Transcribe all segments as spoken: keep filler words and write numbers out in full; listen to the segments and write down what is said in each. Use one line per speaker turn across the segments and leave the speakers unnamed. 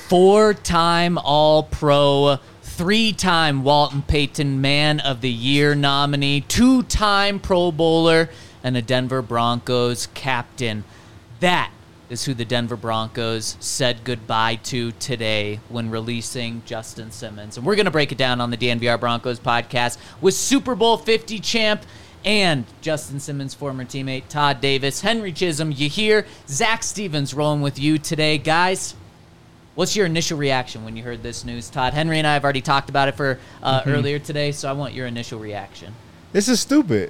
four-time All-Pro, three-time Walton Payton Man of the Year nominee, two-time Pro Bowler, and a Denver Broncos captain. That is who the Denver Broncos said goodbye to today when releasing Justin Simmons. And we're going to break it down on the D N V R Broncos podcast with Super Bowl fifty champ and Justin Simmons' former teammate Todd Davis. Henry Chisholm, you hear Zach Stevens rolling with you today. Guys, what's your initial reaction when you heard this news? Todd, Henry and I have already talked about it for uh, mm-hmm. earlier today, so I want your initial reaction.
This is stupid.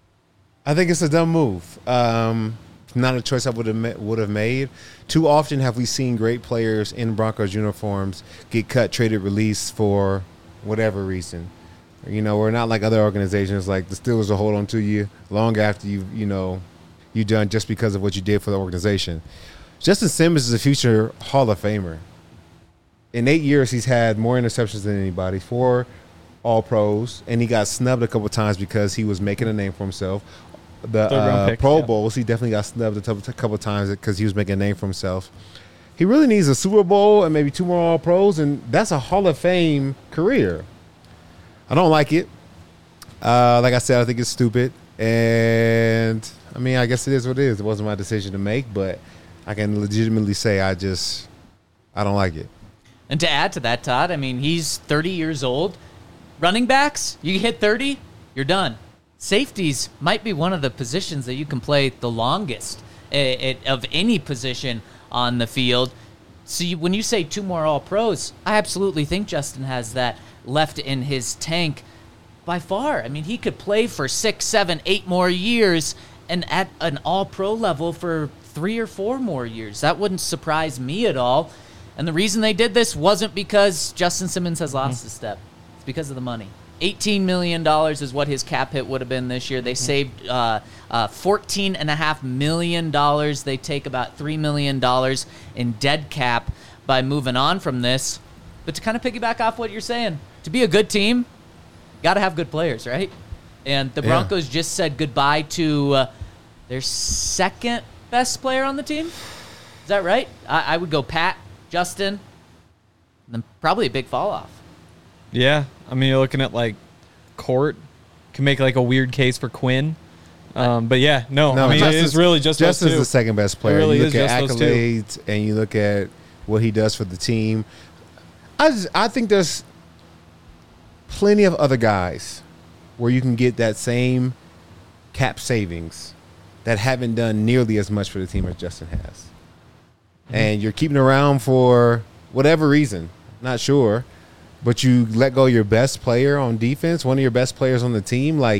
I think it's a dumb move. Um, not a choice I would have would have made. Too often have we seen great players in Broncos uniforms get cut, traded, released for whatever reason. You know, we're not like other organizations like the Steelers will hold on to you long after you you know you done just because of what you did for the organization. Justin Simmons is a future Hall of Famer. In eight years, he's had more interceptions than anybody, four All-Pros, and he got snubbed a couple times because he was making a name for himself. The uh, pick, Pro yeah. Bowls, he definitely got snubbed a couple times because he was making a name for himself. He really needs a Super Bowl and maybe two more All-Pros, and that's a Hall of Fame career. I don't like it. Uh, like I said, I think it's stupid. And, I mean, I guess it is what it is. It wasn't my decision to make, but I can legitimately say I just – I don't like it.
And to add to that, Todd, I mean, he's thirty years old. Running backs, you hit thirty, you're done. Safeties might be one of the positions that you can play the longest of any position on the field. So you, when you say two more All-Pros, I absolutely think Justin has that left in his tank by far. I mean, he could play for six, seven, eight more years and at an All-Pro level for three or four more years. That wouldn't surprise me at all. And the reason they did this wasn't because Justin Simmons has lost mm-hmm. a step. It's because of the money. eighteen million dollars is what his cap hit would have been this year. They mm-hmm. saved uh, uh, fourteen point five million dollars. They take about three million dollars in dead cap by moving on from this. But to kind of piggyback off what you're saying, to be a good team, got to have good players, right? And the Broncos yeah. just said goodbye to uh, their second best player on the team. Is that right? I, I would go Pat, Justin, and then probably a big fall off.
Yeah, I mean, you're looking at, like, Court. Can make, like, a weird case for Quinn. Um, but, yeah, no, no I mean, Justin's, it's really just
Justin's
those two.
the second-best player.
Really
you look at
just
accolades and you look at what he does for the team. I, just, I think there's plenty of other guys where you can get that same cap savings that haven't done nearly as much for the team as Justin has. Mm-hmm. And you're keeping around for whatever reason, not sure. But you let go your best player on defense, one of your best players on the team, like,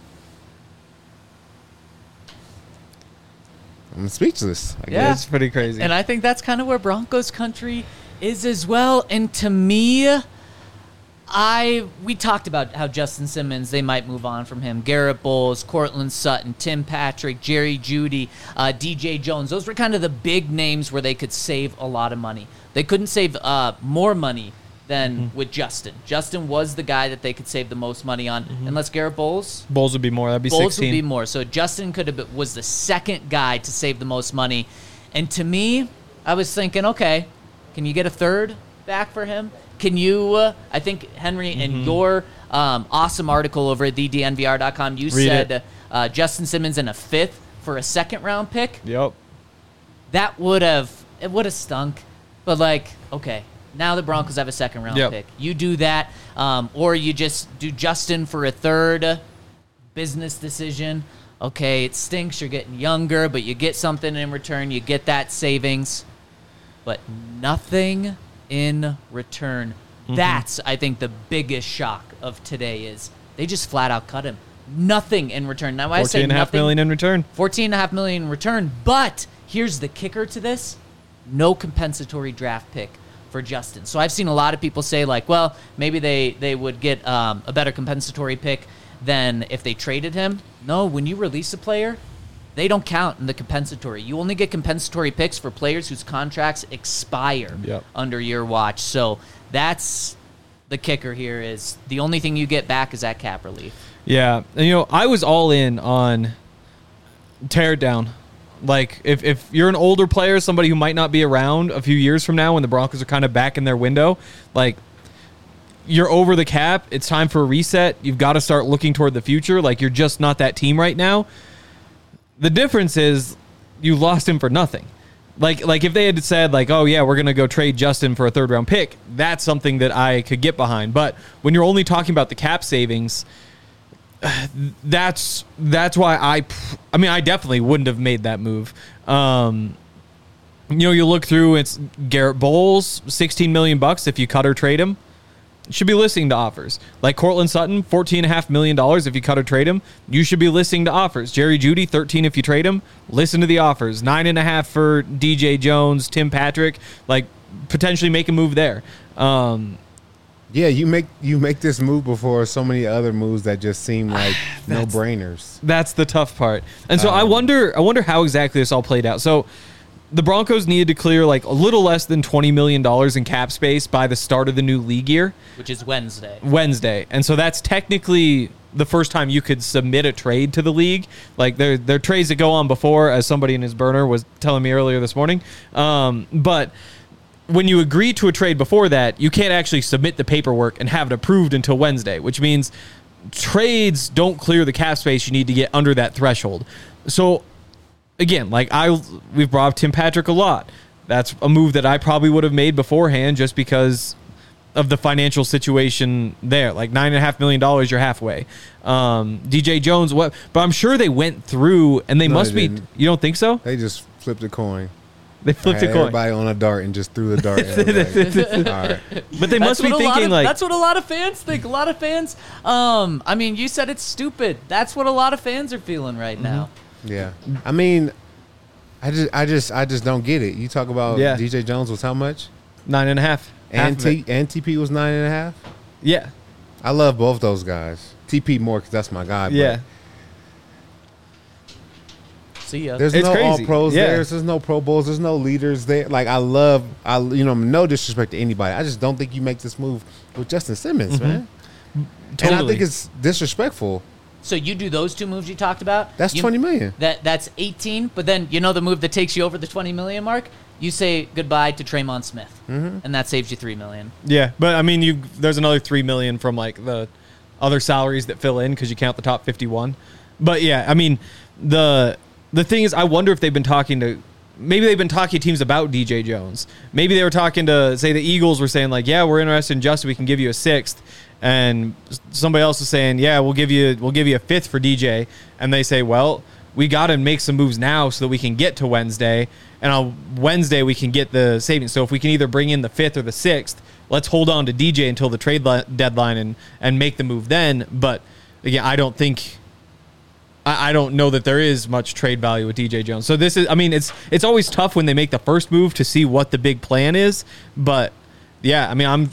I'm speechless. I
yeah,
it's pretty crazy.
And I think that's kind of where Broncos country is as well. And to me, I we talked about how Justin Simmons, they might move on from him. Garrett Bowles, Cortland Sutton, Tim Patrick, Jerry Jeudy, uh, D J Jones. Those were kind of the big names where they could save a lot of money. They couldn't save uh, more money than mm-hmm. with Justin. Justin was the guy that they could save the most money on. Mm-hmm. Unless Garrett Bowles.
Bowles would be more. That'd be
Bowles
sixteen.
Would be more. So Justin could have been, was the second guy to save the most money. And to me, I was thinking, okay, can you get a third back for him? Can you, uh, I think, Henry, mm-hmm. in your um, awesome article over at the D N V R dot com, you Read said uh, Justin Simmons in a fifth for a second-round pick.
Yep.
That would have, it would have stunk. But, like, okay. Now the Broncos have a second-round
yep.
pick. You do that, um, or you just do Justin for a third business decision. Okay, it stinks. You're getting younger, but you get something in return. You get that savings, but nothing in return. Mm-hmm. That's, I think, the biggest shock of today is they just flat-out cut him. Nothing in return. Now, I say
fourteen and a half million in return.
fourteen and a half million in return, but here's the kicker to this. No compensatory draft pick for Justin. So I've seen a lot of people say, like, well, maybe they, they would get um, a better compensatory pick than if they traded him. No, when you release a player, they don't count in the compensatory. You only get compensatory picks for players whose contracts expire yep. under your watch. So that's the kicker here is the only thing you get back is that cap relief.
Yeah. And, you know, I was all in on tear it down. Like, if, if you're an older player, somebody who might not be around a few years from now when the Broncos are kind of back in their window, like, you're over the cap. It's time for a reset. You've got to start looking toward the future. Like, you're just not that team right now. The difference is you lost him for nothing. Like, like if they had said, like, oh, yeah, we're going to go trade Justin for a third-round pick, that's something that I could get behind. But when you're only talking about the cap savings, that's that's why I, I mean, I definitely wouldn't have made that move. Um, you know, you look through, it's Garrett Bowles, sixteen million bucks if you cut or trade him. Should be listening to offers. Like Courtland Sutton, fourteen point five million dollars if you cut or trade him. You should be listening to offers. Jerry Jeudy, thirteen if you trade him. Listen to the offers. nine point five for D J Jones, Tim Patrick. Like, potentially make a move there. Um,
yeah, you make you make this move before so many other moves that just seem like no-brainers.
That's the tough part. And so
um,
I wonder I wonder how exactly this all played out. So the Broncos needed to clear like a little less than twenty million dollars in cap space by the start of the new league year.
Which is Wednesday.
Wednesday. And so that's technically the first time you could submit a trade to the league. Like, there, there are trades that go on before, as somebody in his burner was telling me earlier this morning. Um, but when you agree to a trade before that, you can't actually submit the paperwork and have it approved until Wednesday, which means trades don't clear the cap space you need to get under that threshold. So again, like I, we've brought up Tim Patrick a lot. That's a move that I probably would have made beforehand just because of the financial situation there. Like nine and a half million dollars, you're halfway. Um, D J Jones, what? But I'm sure they went through, and they
No,
must
they
be.
didn't.
You don't think so?
They just flipped a coin.
They flipped a
Had
coin.
Everybody on a dart and just threw the dart. In. Like, all right.
But they must
That's
be
what a lot
thinking
of-
like
that's what a lot of fans think. A lot of fans. Um, I mean, you said it's stupid. That's what a lot of fans are feeling right now.
Yeah, I mean, I just, I just, I just don't get it. You talk about
Yeah.
D J Jones was how much,
nine and a half.
and
Half of it.
T and T P was nine and a half.
Yeah,
I love both those guys. T P more because that's my guy. But
yeah.
See ya.
There's
It's
no
crazy.
all pros
Yeah.
there. There's no Pro Bowls. There's no leaders there. Like I love, I you know, no disrespect to anybody. I just don't think you make this move with Justin Simmons, man. And I
Totally.
think it's disrespectful.
So you do those two moves you talked about.
That's
you,
twenty million.
That that's eighteen. But then you know the move that takes you over the twenty million mark. You say goodbye to Traymon Smith,
Mm-hmm.
and that saves you three million.
Yeah, but I mean, you there's another three million from like the other salaries that fill in because you count the top fifty-one. But yeah, I mean, the the thing is, I wonder if they've been talking to maybe they've been talking to teams about D J Jones. Maybe they were talking to say the Eagles were saying like, yeah, we're interested in Justin. We can give you a sixth, and somebody else is saying, yeah, we'll give you we'll give you a fifth for D J, and they say, well, we got to make some moves now so that we can get to Wednesday. And on Wednesday, we can get the savings. So if we can either bring in the fifth or the sixth, let's hold on to D J until the trade li- deadline and, and make the move then. But again, I don't think, I, I don't know that there is much trade value with D J Jones. So this is, I mean, it's it's always tough when they make the first move to see what the big plan is. But yeah, I mean, I'm,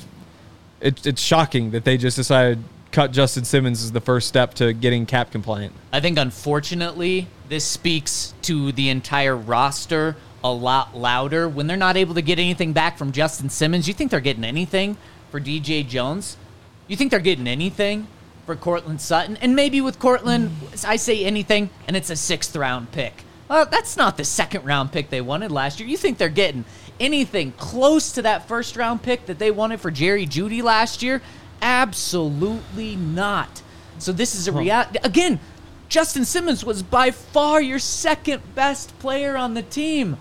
it, it's shocking that they just decided cut Justin Simmons as the first step to getting cap compliant.
I think unfortunately this speaks to the entire roster a lot louder. When they're not able to get anything back from Justin Simmons, you think they're getting anything for D J Jones? You think they're getting anything for Courtland Sutton? And maybe with Courtland, I say anything, and it's a sixth round pick. Well, that's not the second round pick they wanted last year. You think they're getting anything close to that first round pick that they wanted for Jerry Jeudy last year? Absolutely not. So this is a reality. Again, Justin Simmons was by far your second best player on the team.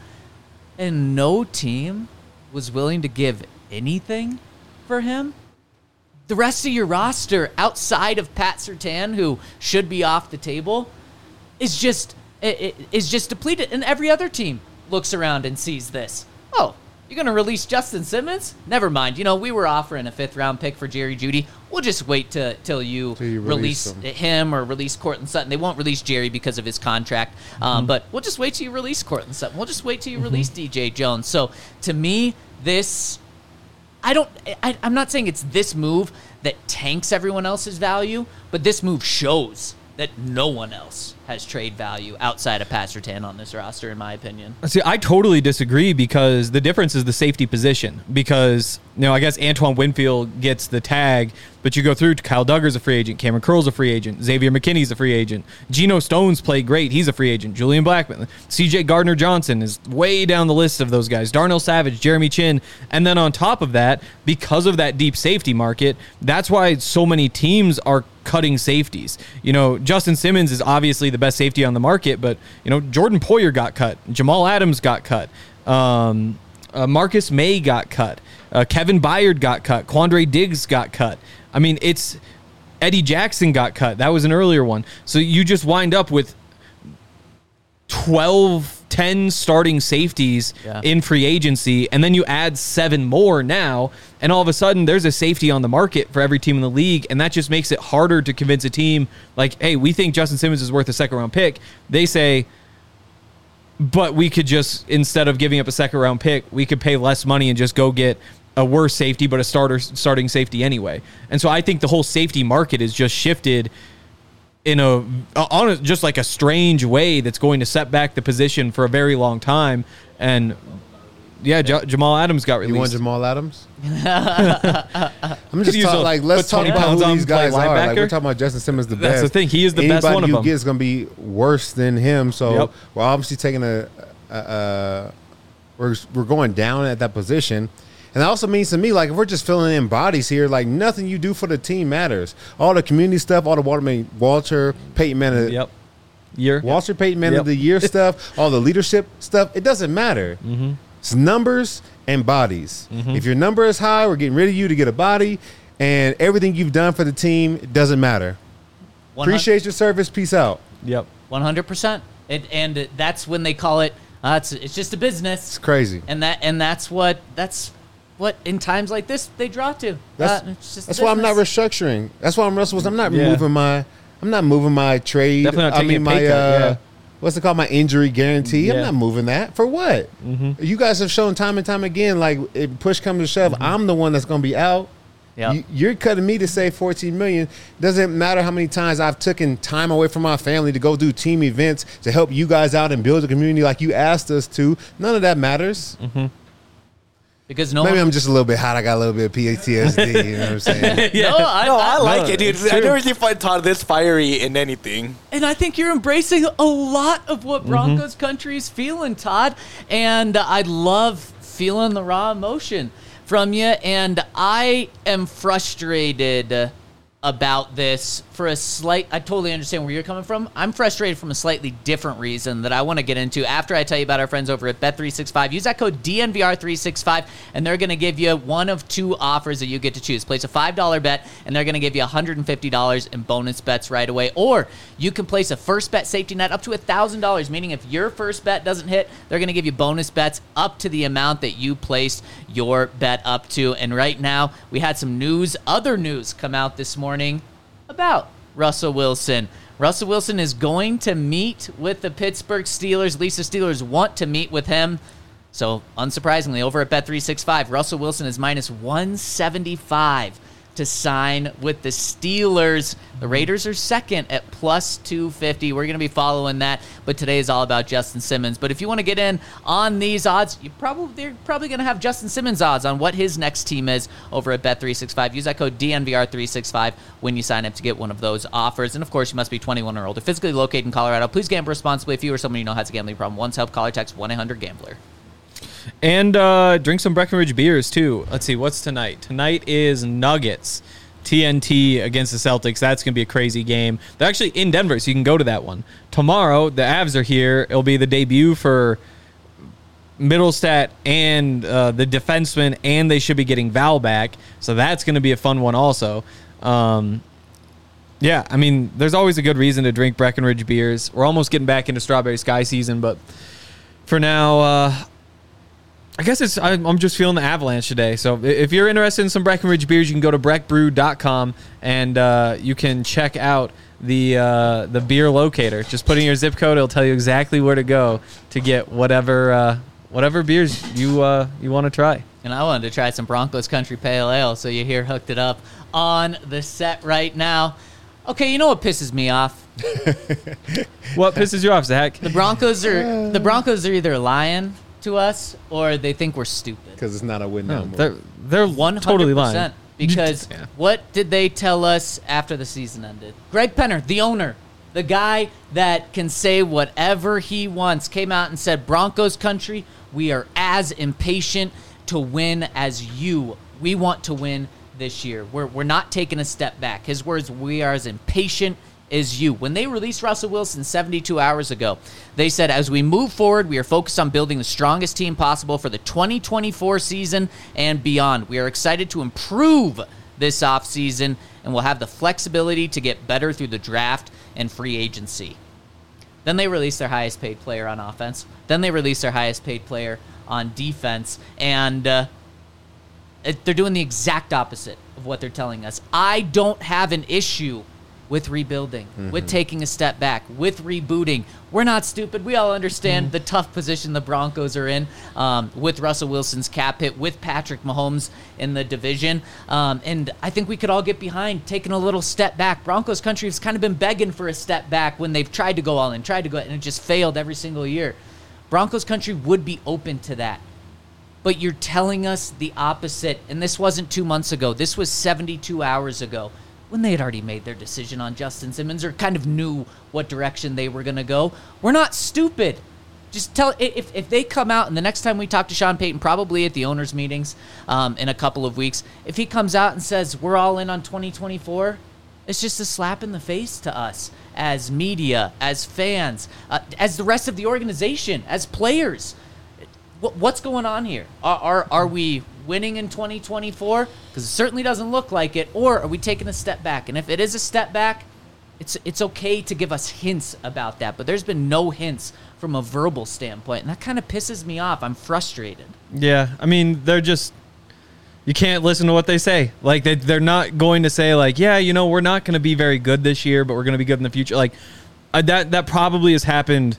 And no team was willing to give anything for him. The rest of your roster, outside of Pat Surtain, who should be off the table, is just is just depleted. And every other team looks around and sees this. Oh, you're going to release Justin Simmons? Never mind. You know, we were offering a fifth-round pick for Jerry Jeudy. We'll just wait to, till you,
Till you release
release
him.
him or release Courtland Sutton. They won't release Jerry because of his contract. Um,
Mm-hmm.
but we'll just wait till you release Courtland Sutton. We'll just wait till you release D J Jones. So, to me, this... I don't... I, I'm not saying it's this move that tanks everyone else's value, but this move shows that no one else has trade value outside of Pat Surtain on this roster, in my opinion.
See, I totally disagree because the difference is the safety position. Because, you know, I guess Antoine Winfield gets the tag, but you go through to Kyle Duggar's a free agent, Cameron Curl's a free agent, Xavier McKinney's a free agent, Geno Stone's played great, he's a free agent, Julian Blackmon, C J Gardner-Johnson is way down the list of those guys, Darnell Savage, Jeremy Chin, and then on top of that, because of that deep safety market, that's why so many teams are cutting safeties. You know, Justin Simmons is obviously the best safety on the market, but, you know, Jordan Poyer got cut. Jamal Adams got cut. Um, uh, Marcus May got cut. Uh, Kevin Byard got cut. Quandre Diggs got cut. I mean, it's Eddie Jackson got cut. That was an earlier one. So you just wind up with twelve, ten starting safeties
yeah.
in free agency, and then you add seven more now, and all of a sudden there's a safety on the market for every team in the league, and that just makes it harder to convince a team like, hey, we think Justin Simmons is worth a second round pick. They say, but we could just, instead of giving up a second round pick, we could pay less money and just go get a worse safety, but a starter starting safety anyway. And so I think the whole safety market is just shifted in a on a, just like a strange way that's going to set back the position for a very long time. And yeah, J- Jamal Adams got released.
You want Jamal Adams? I'm just
use
talking
a-
like let's
put
talk
twenty
about
pounds
who
on,
these
play
guys are. Like
linebacker.
we're talking about Justin Simmons, the
That's
best.
the thing. He is the
Anybody
best one of
you
them.
get is going to be worse than him. So
Yep.
we're obviously taking a, a, a we're we're going down at that position. And that also means to me, like, if we're just filling in bodies here, like, nothing you do for the team matters. All the community stuff, all the Walter, I mean, Walter Payton Man of,
Yep. Year.
Walter Payton Man
Yep.
of the Year stuff, all the leadership stuff, it doesn't matter.
Mm-hmm.
It's numbers and bodies.
Mm-hmm.
If your number is high, we're getting rid of you to get a body, and everything you've done for the team, it doesn't matter. Appreciate your service. Peace out.
Yep.
one hundred percent. It, and that's when they call it, uh, it's, it's just a business.
It's crazy.
And that and that's what that's what in times like this they draw to.
That's,
uh, it's just
that's why I'm not
business.
restructuring. That's why I'm Russell. I'm not
Yeah.
moving my. I'm not moving my trade.
Definitely not
I
taking
mean
a
my.
pay cut,
uh,
yeah.
What's it called? My injury guarantee. I'm
Yeah.
not moving that for what?
Mm-hmm.
You guys have shown time and time again. Like if push comes to shove, I'm the one that's going to be out.
Yep.
You, you're cutting me to save fourteen million. Doesn't matter how many times I've taken time away from my family to go do team events to help you guys out and build a community like you asked us to. None of that matters.
Mm-hmm.
Because no
Maybe
one,
I'm just a little bit hot. I got a little bit of P T S D. You know what I'm saying?
Yeah.
No, I,
No,
I,
I like
no,
it, dude.
it's
I
true.
never seen find Todd this fiery in anything.
and I think you're embracing a lot of
Mm-hmm.
what Broncos country is feeling, Todd. And I love feeling the raw emotion from you. And I am frustrated about this for a slight, I totally understand where you're coming from. I'm frustrated from a slightly different reason that I want to get into after I tell you about our friends over at Bet three sixty-five. Use that code D N V R three sixty-five, and they're going to give you one of two offers that you get to choose. Place a five dollar bet, and they're going to give you one hundred fifty dollars in bonus bets right away. Or you can place a first bet safety net up to one thousand dollars, meaning if your first bet doesn't hit, they're going to give you bonus bets up to the amount that you placed your bet up to. And right now, we had some news, other news come out this morning about Russell Wilson. Russell Wilson is going to meet with the Pittsburgh Steelers. At least the Steelers want to meet with him. So, unsurprisingly, over at Bet three sixty-five, Russell Wilson is minus one seventy-five to sign with the Steelers. The Raiders are second at plus two fifty. We're going to be following that, but today is all about Justin Simmons. But if you want to get in on these odds, you probably they're probably going to have Justin Simmons odds on what his next team is over at Bet three sixty-five. Use that code D N V R three sixty-five when you sign up to get one of those offers. And of course, you must be twenty-one or older, physically located in Colorado. Please gamble responsibly. If you or someone you know has a gambling problem, once help, call or text one eight hundred gambler.
And uh, drink some Breckenridge beers, too. Let's see, what's tonight? Tonight is Nuggets. T N T against the Celtics. That's going to be a crazy game. They're actually in Denver, so you can go to that one. Tomorrow, the Avs are here. It'll be the debut for Middlestat and uh, the defenseman, and they should be getting Val back. So that's going to be a fun one also. Um, yeah, I mean, there's always a good reason to drink Breckenridge beers. We're almost getting back into Strawberry Sky season, but for now, uh, I guess it's I'm, I'm just feeling the avalanche today. So if you're interested in some Breckenridge beers, you can go to breck brew dot com and uh, you can check out the uh, the beer locator. Just put in your zip code; it'll tell you exactly where to go to get whatever uh, whatever beers you uh, you want to try.
And I wanted to try some Broncos Country Pale Ale, so you hear hooked it up on the set right now. Okay, you know what pisses me off?
What pisses you off, Zach?
The Broncos are the Broncos are either lying to us or they think we're stupid.
Because it's not a win
No,
no more.
they're they're
One
totally
hundred
lying.
percent. Because
Yeah.
what did they tell us after the season ended? Greg Penner, the owner, the guy that can say whatever he wants, came out and said, Broncos country, we are as impatient to win as you. We want to win this year. We're, we're not taking a step back. His words, we are as impatient as you. When they released Russell Wilson seventy-two hours ago, they said, as we move forward, we are focused on building the strongest team possible for the twenty twenty-four season and beyond. We are excited to improve this offseason, and we'll have the flexibility to get better through the draft and free agency. Then they released their highest paid player on offense. Then they released their highest paid player on defense. And uh, it, they're doing the exact opposite of what they're telling us. I don't have an issue with rebuilding, mm-hmm. with taking a step back, with rebooting. We're not stupid. We all understand mm-hmm. the tough position the Broncos are in um, with Russell Wilson's cap hit, with Patrick Mahomes in the division. Um, and I think we could all get behind taking a little step back. Broncos country has kind of been begging for a step back when they've tried to go all in, tried to go, and it just failed every single year. Broncos country would be open to that. But you're telling us the opposite. And this wasn't two months ago. This was seventy-two hours ago, when they had already made their decision on Justin Simmons or kind of knew what direction they were going to go. We're not stupid. Just tell if if they come out, and the next time we talk to Sean Payton, probably at the owners' meetings um, in a couple of weeks, if he comes out and says we're all in on twenty twenty-four, it's just a slap in the face to us as media, as fans, uh, as the rest of the organization, as players. What, what's going on here? Are are, are we winning in twenty twenty-four? Because it certainly doesn't look like it. Or are we taking a step back? And if it is a step back, it's it's okay to give us hints about that. But there's been no hints from a verbal standpoint, and that kind of pisses me off. I'm frustrated.
Yeah, I mean, they're just, you can't listen to what they say. Like, they, they're not going to say, like, yeah, you know, we're not going to be very good this year, but we're going to be good in the future. Like, uh, that that probably has happened.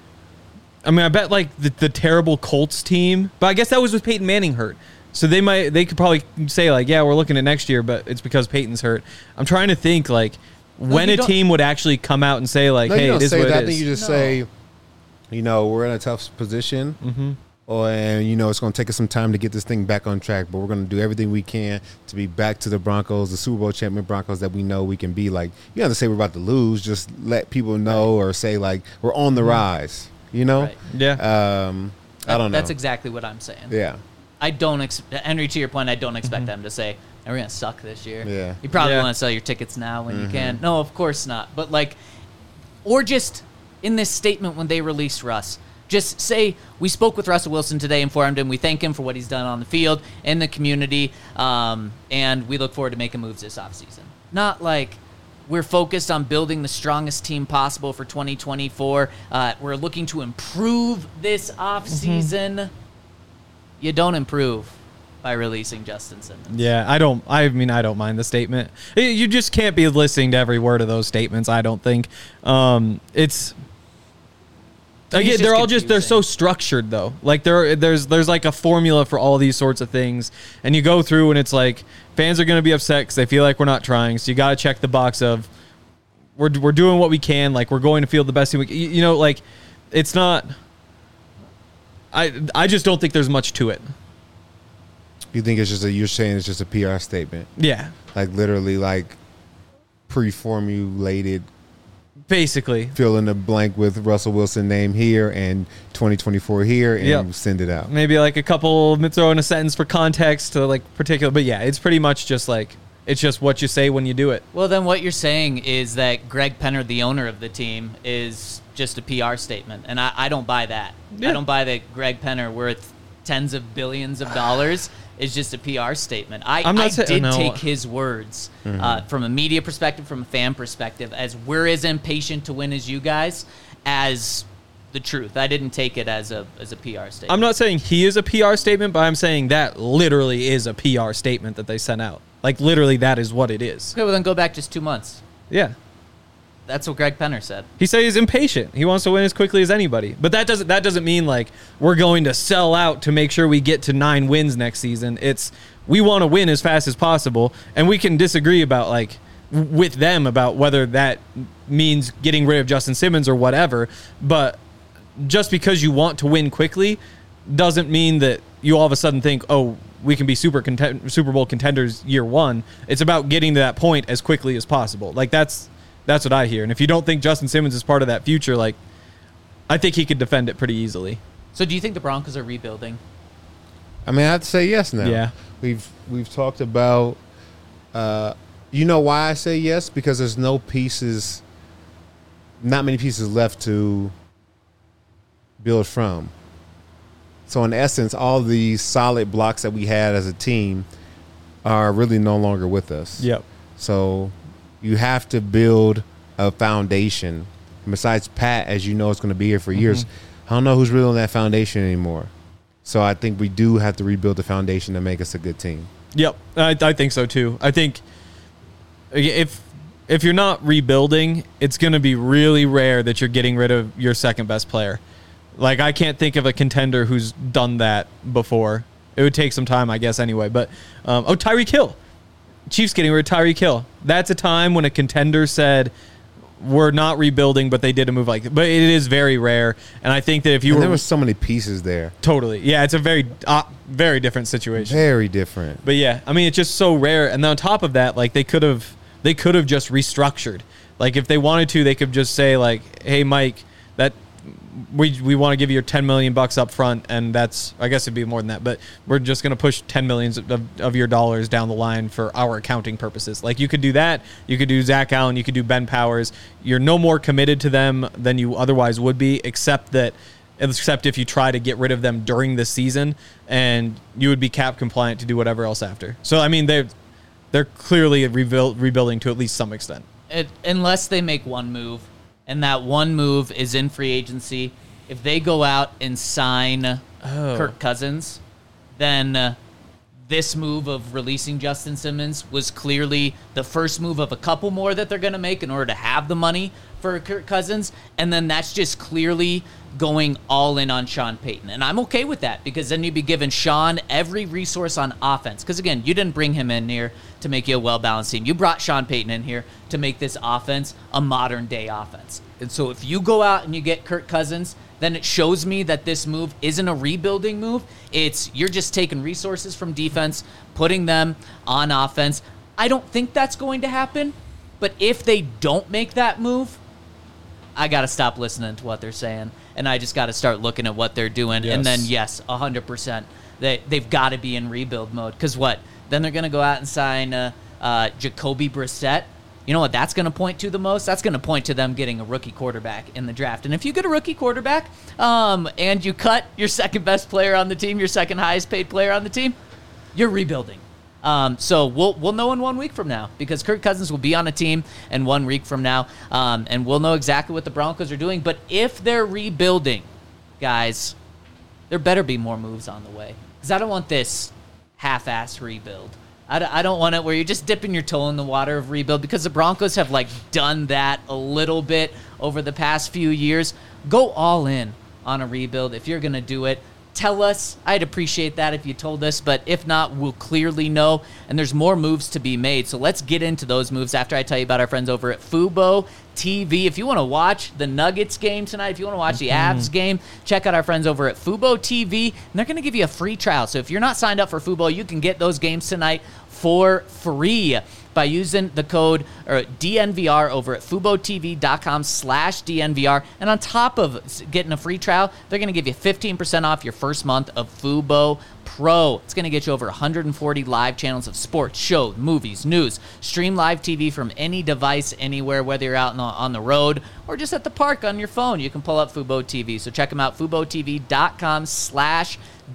I mean, I bet, like, the, the terrible Colts team, but I guess that was with Peyton Manning hurt. So they might, they could probably say, like, yeah, we're looking at next year, but it's because Peyton's hurt. I'm trying to think, like,
No,
when
you
a
don't-
team would actually come out and say, like,
No,
hey,
you
it
don't
is
say
what
that. I
it
think
is.
you just
No.
say, you know, we're in a tough position,
Mm-hmm.
or and you know it's going to take us some time to get this thing back on track. But we're going to do everything we can to be back to the Broncos, the Super Bowl champion Broncos that we know we can be. Like, you don't have to say we're about to lose. Just let people know, or say like we're on the rise. You know,
Right.
Yeah.
um, I don't know.
That's exactly what I'm saying.
yeah.
I don't ex- Henry, to your point, I don't expect them to say, "We're gonna suck this year."
Yeah.
You probably
Yeah.
want to sell your tickets now when you can. No, of course not. But like, or just in this statement when they released Russ, just say we spoke with Russell Wilson today, informed him, we thank him for what he's done on the field in the community, um, and we look forward to making moves this offseason. Not like we're focused on building the strongest team possible for twenty twenty-four. Uh, we're looking to improve this offseason. Mm-hmm. You don't improve by releasing Justin Simmons.
Yeah, I don't. I mean, I don't mind the statement. You just can't be listening to every word of those statements. I don't think. Um, it's
To me,
again,
it's
they're
just
all just they're so
confusing.
structured though. Like there, there's there's like a formula for all these sorts of things, and you go through and it's like fans are going to be upset because they feel like we're not trying. So you got to check the box of we're we're doing what we can. Like we're going to field the best team we can. You, you know, like it's not. I I just don't think there's much to it.
You think it's just a you're saying it's just a P R statement,
Yeah,
like literally like pre-formulated.
basically.
Fill in the blank with Russell Wilson name here and twenty twenty-four here, and
Yep.
send it out.
Maybe like a couple, throw in a sentence for context to like particular, but yeah, it's pretty much just like, it's just what you say when you do it.
Well, then what you're saying is that Greg Penner, the owner of the team, is just a P R statement. And I, I don't buy that.
Yeah.
I don't buy that Greg Penner, worth tens of billions of dollars, is just a P R statement. I,
I'm not
I
say-
did
no.
take his words uh, from a media perspective, from a fan perspective, as we're as impatient to win as you guys, as the truth. I didn't take it as a as a P R statement.
I'm not saying he is a P R statement, but I'm saying that literally is a P R statement that they sent out. Like literally that is what it is.
Okay, well then go back just two months.
Yeah.
That's what Greg Penner said.
He said he's impatient. He wants to win as quickly as anybody. But that doesn't that doesn't mean like we're going to sell out to make sure we get to nine wins next season. It's we want to win as fast as possible, and we can disagree about like w- with them about whether that means getting rid of Justin Simmons or whatever. But just because you want to win quickly doesn't mean that you all of a sudden think, oh, we can be super content- Super Bowl contenders year one. It's about getting to that point as quickly as possible. Like that's that's what I hear. And if you don't think Justin Simmons is part of that future, like I think he could defend it pretty easily.
So do you think the Broncos are rebuilding?
I mean, I have to say yes now.
Yeah.
We've we've talked about. Uh, you know why I say yes? Because there's no pieces, not many pieces left to build from. So in essence, all the solid blocks that we had as a team are really no longer with us.
Yep.
So you have to build a foundation. Besides Pat, as you know, is going to be here for years. I don't know who's really on that foundation anymore. So I think we do have to rebuild the foundation to make us a good team.
Yep, I, I think so too. I think if if you're not rebuilding, it's going to be really rare that you're getting rid of your second best player. Like I can't think of a contender who's done that before. It would take some time, I guess, anyway. But um, oh, Tyreek Hill, Chiefs getting rid of Tyreek Hill. That's a time when a contender said, we're not rebuilding, but they did a move like that. But it is very rare, and I think that if you
and
were
there were so many pieces there,
totally, yeah, it's a very, uh, very different situation.
very different.
But yeah, I mean, it's just so rare. And then on top of that, like they could have, they could have just restructured. Like if they wanted to, they could just say like, "Hey, Mike, that we we want to give you ten million bucks up front, and that's I guess it'd be more than that, but we're just going to push ten millions of, of your dollars down the line for our accounting purposes." Like you could do that. You could do Zach Allen. You could do Ben Powers. You're no more committed to them than you otherwise would be, except that. Except if you try to get rid of them during the season, and you would be cap compliant to do whatever else after. So I mean, they're they're clearly rebuild, rebuilding to at least some extent.
It, unless they make one move, and that one move is in free agency. If they go out and sign
Oh.
Kirk Cousins, then uh, this move of releasing Justin Simmons was clearly the first move of a couple more that they're going to make in order to have the money for Kirk Cousins, and then that's just clearly going all in on Sean Payton. And I'm okay with that, because then you'd be giving Sean every resource on offense. Because, again, you didn't bring him in here to make you a well-balanced team. You brought Sean Payton in here to make this offense a modern-day offense. And so if you go out and you get Kirk Cousins, then it shows me that this move isn't a rebuilding move. It's you're just taking resources from defense, putting them on offense. I don't think that's going to happen. But if they don't make that move, I got to stop listening to what they're saying, and I just got to start looking at what they're doing.
Yes.
And then, yes, one hundred percent, they, they've got to be in rebuild mode. Because what? Then they're going to go out and sign uh, uh, Jacoby Brissett. You know what that's going to point to the most? That's going to point to them getting a rookie quarterback in the draft. And if you get a rookie quarterback um, and you cut your second best player on the team, your second highest paid player on the team, you're rebuilding. Um, so we'll we'll know in one week from now, because Kirk Cousins will be on a team in one week from now, um, and we'll know exactly what the Broncos are doing. But if they're rebuilding, guys, there better be more moves on the way, because I don't want this half-ass rebuild. I, d- I don't want it where you're just dipping your toe in the water of rebuild, because the Broncos have like done that a little bit over the past few years. Go all in on a rebuild if you're going to do it. Tell us. I'd appreciate that if you told us, but if not, we'll clearly know, and there's more moves to be made. So let's get into those moves after I tell you about our friends over at Fubo T V. If you want to watch the Nuggets game tonight, if you want to watch the Avs game, check out our friends over at Fubo T V, and they're going to give you a free trial. So if you're not signed up for Fubo, you can get those games tonight for free by using the code or D N V R over at FuboTV.com slash DNVR. And on top of getting a free trial, they're going to give you fifteen percent off your first month of Fubo Pro. It's going to get you over one hundred forty live channels of sports, shows, movies, news. Stream live T V from any device, anywhere, whether you're out on the, on the road or just at the park on your phone. You can pull up Fubo T V. So check them out, FuboTV.com slash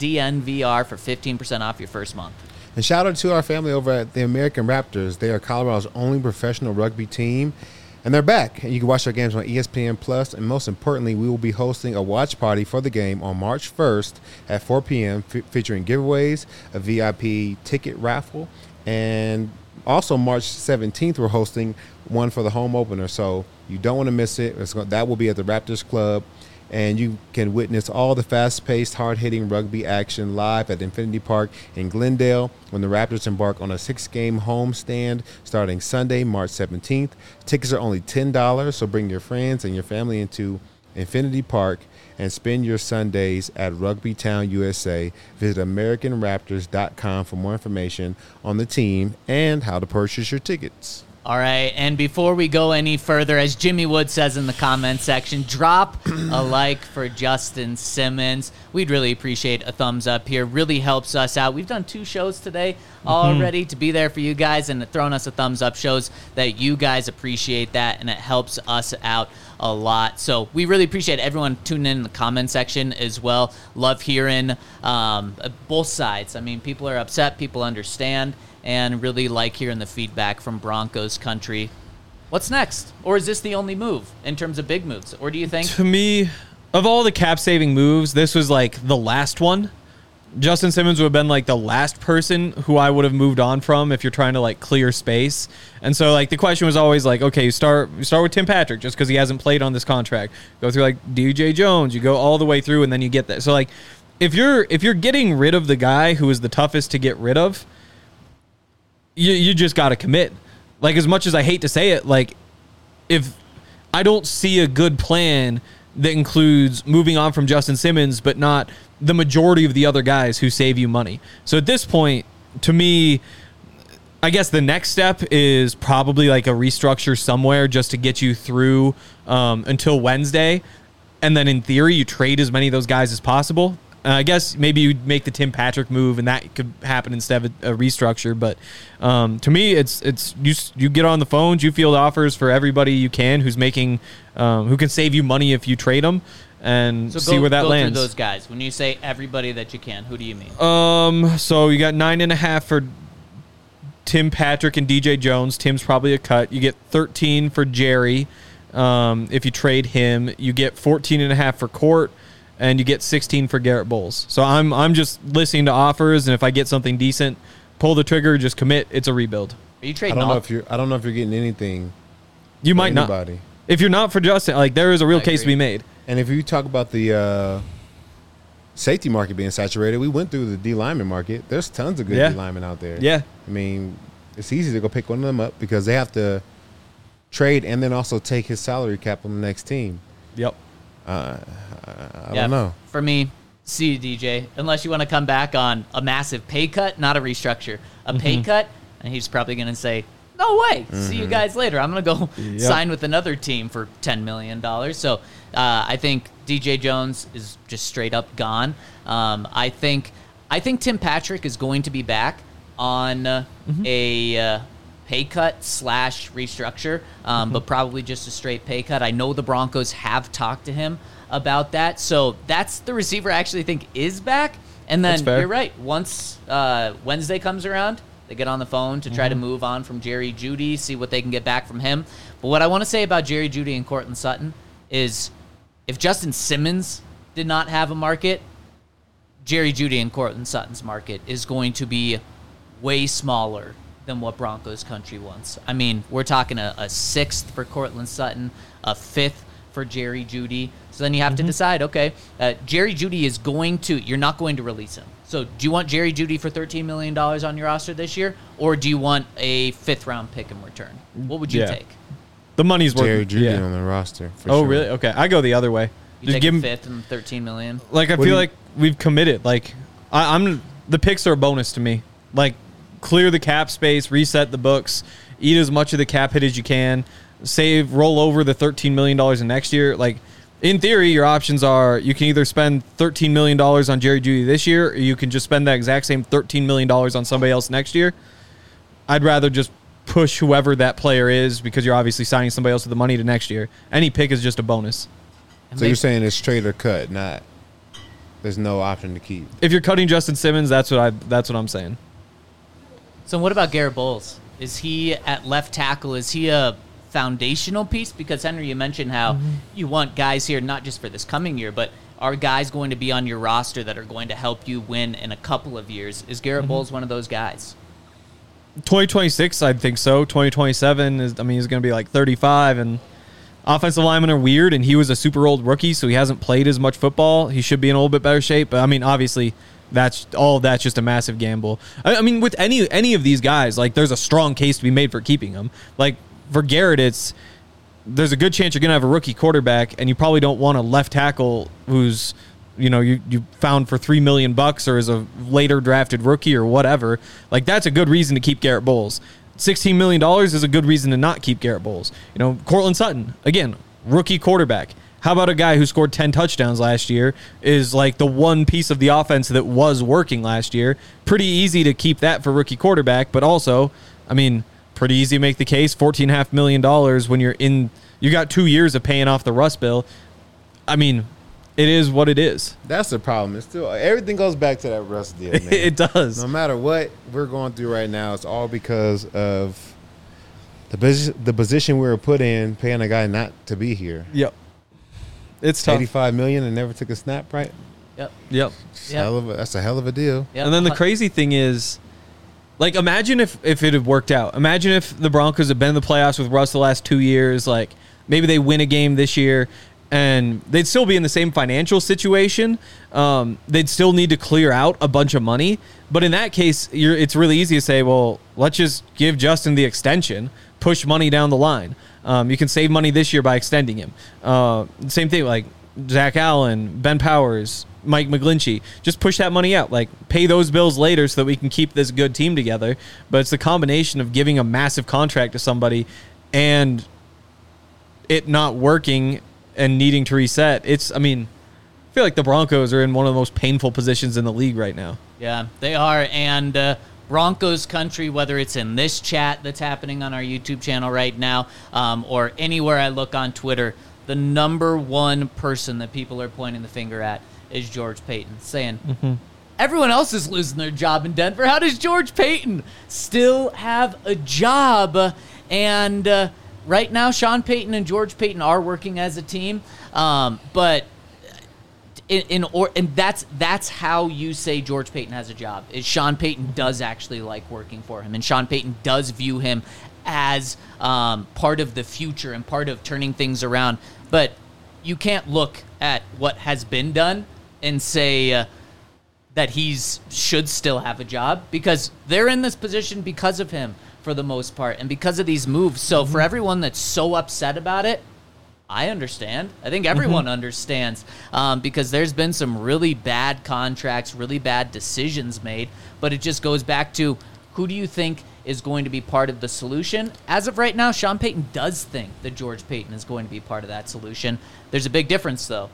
DNVR for fifteen percent off your first month.
And shout out to our family over at the American Raptors. They are Colorado's only professional rugby team, and they're back. And you can watch their games on E S P N Plus. And most importantly, we will be hosting a watch party for the game on March first at four p.m. f- featuring giveaways, a V I P ticket raffle, and also March seventeenth we're hosting one for the home opener. So you don't want to miss it. It's going, that will be at the Raptors Club and you can witness all the fast-paced, hard-hitting rugby action live at Infinity Park in Glendale when the Raptors embark on a six-game homestand starting Sunday, March seventeenth. Tickets are only ten dollars, so bring your friends and your family into Infinity Park and spend your Sundays at Rugby Town, U S A. Visit American Raptors dot com for more information on the team and how to purchase your tickets.
All right, and before we go any further, as Jimmy Wood says in the comment section, drop a like for Justin Simmons. We'd really appreciate a thumbs up here. Really helps us out. We've done two shows today already to be there for you guys, and throwing us a thumbs up shows that you guys appreciate that, and it helps us out a lot. So we really appreciate everyone tuning in in the comment section as well. Love hearing um, both sides. I mean, people are upset, people understand, and really like hearing the feedback from Broncos country. What's next? Or is this the only move in terms of big moves? Or do you think?
To me, of all the cap-saving moves, this was like the last one. Justin Simmons would have been like the last person who I would have moved on from if you're trying to like clear space. And so like the question was always like, okay, you start you start with Tim Patrick just because he hasn't played on this contract. Go through like D J Jones, you go all the way through, and then you get that. So like if you're if you're getting rid of the guy who is the toughest to get rid of, you you just got to commit. Like, as much as I hate to say it, like, if I don't see a good plan that includes moving on from Justin Simmons, but not the majority of the other guys who save you money. So at this point, to me, I guess the next step is probably like a restructure somewhere just to get you through um, until Wednesday. And then in theory, you trade as many of those guys as possible. Uh, I guess maybe you make the Tim Patrick move, and that could happen instead of a, a restructure. But um, to me, it's it's you you get on the phones, you field offers for everybody you can who's making um, who can save you money if you trade them, and
so
see
go,
where that
go
lands.
Through those guys. When you say everybody that you can, who do you mean?
Um, so you got nine and a half for Tim Patrick and D J Jones. Tim's probably a cut. You get thirteen for Jerry. Um, if you trade him, you get fourteen and a half for Court. And you get sixteen for Garrett Bowles. So I'm I'm just listening to offers, and if I get something decent, pull the trigger, just commit. It's a rebuild.
Are you
I
trading
don't know
all?
if you're. I don't know if you're getting anything.
You
for
might
anybody.
not. If you're not for Justin, like there is a real
I
case to
agree.
be made.
And if you talk about the uh, safety market being saturated, we went through the D lineman market. There's tons of good
Yeah.
D linemen out there.
Yeah.
I mean, it's easy to go pick one of them up because they have to trade and then also take his salary cap on the next team.
Yep.
Uh, I
Yeah,
don't know.
For me, see you, D J. Unless you want to come back on a massive pay cut, not a restructure, a
Mm-hmm.
pay cut, and he's probably going to say, "No way, see you guys later. I'm going to go
Yep.
sign with another team for ten million dollars." So uh, I think D J Jones is just straight up gone. Um, I think I think Tim Patrick is going to be back on uh,
Mm-hmm.
a. Uh, pay cut slash restructure, um,
Mm-hmm.
but probably just a straight pay cut. I know the Broncos have talked to him about that, so that's the receiver I actually think is back. And then
That's fair.
you're right. Once uh, Wednesday comes around, they get on the phone to try to
Mm-hmm.
move on from Jerry Jeudy, see what they can get back from him. But what I want to say about Jerry Jeudy and Courtland Sutton is if Justin Simmons did not have a market, Jerry Jeudy and Courtland Sutton's market is going to be way smaller than what Broncos country wants. I mean, we're talking a, a sixth for Courtland Sutton, a fifth for Jerry Jeudy. So then you have to decide, okay, uh, Jerry Jeudy is going to, you're not going to release him. So do you want Jerry Jeudy for thirteen million dollars on your roster this year, or do you want a fifth round pick in return? What would you
Yeah.
take?
The money's worth.
Jerry Jeudy
yeah.
on the roster. For
Oh
sure.
really? Okay, I go the other way.
You
Just
take
give
a
him
fifth and thirteen million.
like I
What do
feel
you-
like we've committed. Like I, I'm the picks are a bonus to me. Like clear the cap space, reset the books, eat as much of the cap hit as you can, save, roll over the thirteen million dollars in next year. Like in theory, your options are you can either spend thirteen million dollars on Jerry Jeudy this year, or you can just spend that exact same thirteen million dollars on somebody else next year. I'd rather just push whoever that player is because you're obviously signing somebody else with the money to next year. Any pick is just a bonus.
And
So
they-
you're saying it's trade or cut, not there's no option to keep.
If you're cutting Justin Simmons, that's what I that's what I'm saying.
So what about Garrett Bowles? Is he at left tackle? Is he a foundational piece? Because Henry, you mentioned how
Mm-hmm.
you want guys here not just for this coming year, but are guys going to be on your roster that are going to help you win in a couple of years? Is Garrett
Mm-hmm.
Bowles one of those guys?
twenty twenty-six, I think so. twenty twenty-seven is, I mean, he's going to be like thirty-five, and offensive linemen are weird, and he was a super old rookie, so he hasn't played as much football. He should be in a little bit better shape. But I mean, obviously, that's all. Of that's just a massive gamble. I, I mean, with any any of these guys, like there's a strong case to be made for keeping them. Like for Garrett, it's there's a good chance you're gonna have a rookie quarterback, and you probably don't want a left tackle who's you know you you found for three million bucks or is a later drafted rookie or whatever. Like that's a good reason to keep Garrett Bowles. sixteen million dollars is a good reason to not keep Garrett Bowles. You know, Cortland Sutton, again, rookie quarterback. How about a guy who scored ten touchdowns last year, is like the one piece of the offense that was working last year? Pretty easy to keep that for rookie quarterback, but also, I mean, pretty easy to make the case, fourteen point five million dollars when you're in, you got two years of paying off the Russ bill. I mean, it is what it is.
That's the problem. It's still everything goes back to that Russ deal, man.
It does.
No matter what we're going through right now, it's all because of the posi- the position we were put in, paying a guy not to be here.
Yep. It's tough.
eighty-five million dollars and never took a snap, right?
Yep.
Yep.
It's
Yep.
hell of a, that's a hell of a deal.
Yep.
And then the crazy thing is, like, imagine if, if it had worked out. Imagine if the Broncos had been in the playoffs with Russ the last two years. Like, maybe they win a game this year, and they'd still be in the same financial situation. Um, they'd still need to clear out a bunch of money. But in that case, you're, it's really easy to say, well, let's just give Justin the extension, push money down the line. Um, you can save money this year by extending him. Uh, same thing, like Zach Allen, Ben Powers, Mike McGlinchey. Just push that money out. Like, pay those bills later so that we can keep this good team together. But it's the combination of giving a massive contract to somebody and it not working and needing to reset. It's, I mean, I feel like the Broncos are in one of the most painful positions in the league right now.
Yeah, they are. And uh, Broncos country, whether it's in this chat that's happening on our YouTube channel right now um, or anywhere I look on Twitter, the number one person that people are pointing the finger at is George Paton, saying, mm-hmm. everyone else is losing their job in Denver. How does George Paton still have a job? And uh, right now, Sean Payton and George Paton are working as a team, um, but in, in or and that's that's how you say George Paton has a job. Is Sean Payton does actually like working for him, and Sean Payton does view him as um, part of the future and part of turning things around. But you can't look at what has been done and say uh, that he's should still have a job, because they're in this position because of him for the most part and because of these moves. So mm-hmm. for everyone that's so upset about it, I understand. I think everyone mm-hmm. understands um, because there's been some really bad contracts, really bad decisions made, but it just goes back to, who do you think is going to be part of the solution? As of right now, Sean Payton does think that George Paton is going to be part of that solution. There's a big difference, though.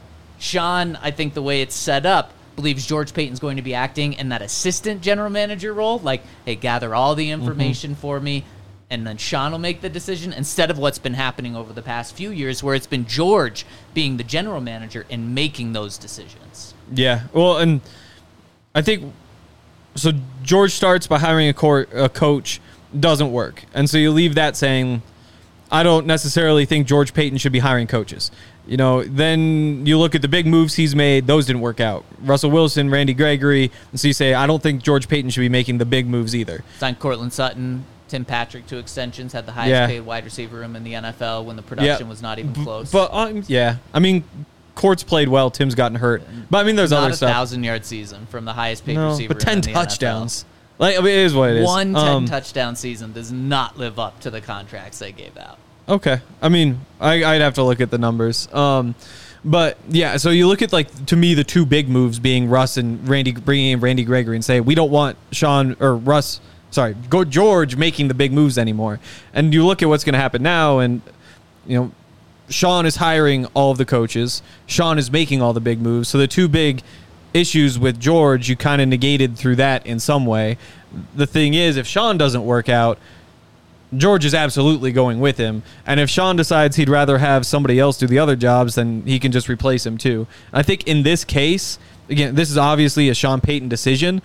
Sean, I think the way it's set up, believes George Payton's going to be acting in that assistant general manager role, like, hey, gather all the information mm-hmm. for me, and then Sean will make the decision, instead of what's been happening over the past few years where it's been George being the general manager and making those decisions.
Yeah, well, and I think, so George starts by hiring a, cor- a coach, doesn't work. And so you leave that saying, I don't necessarily think George Paton should be hiring coaches. You know, then you look at the big moves he's made, those didn't work out. Russell Wilson, Randy Gregory, and so you say, I don't think George Paton should be making the big moves either.
Signed Cortland Sutton, Tim Patrick to extensions, had the highest
yeah.
paid wide receiver room in the N F L when the production
yeah.
was not even close.
But, um, yeah, I mean, Court's played well, Tim's gotten hurt. But, I mean, there's
not
other
a
stuff.
thousand-yard season from the highest paid
no,
receiver
but ten
room in the
touchdowns.
N F L.
Like, I mean, it is what it is.
One
um,
ten-touchdown season does not live up to the contracts they gave out.
Okay. I mean, I, I'd have to look at the numbers. Um, but, yeah, so you look at, like, to me, the two big moves being Russ and Randy, bringing in Randy Gregory and say, we don't want Sean or Russ, sorry, go George making the big moves anymore. And you look at what's going to happen now, and, you know, Sean is hiring all of the coaches. Sean is making all the big moves. So the two big issues with George, you kind of negated through that in some way. The thing is, if Sean doesn't work out, George is absolutely going with him. And if Sean decides he'd rather have somebody else do the other jobs, then he can just replace him too. I think in this case, again, this is obviously a Sean Payton decision.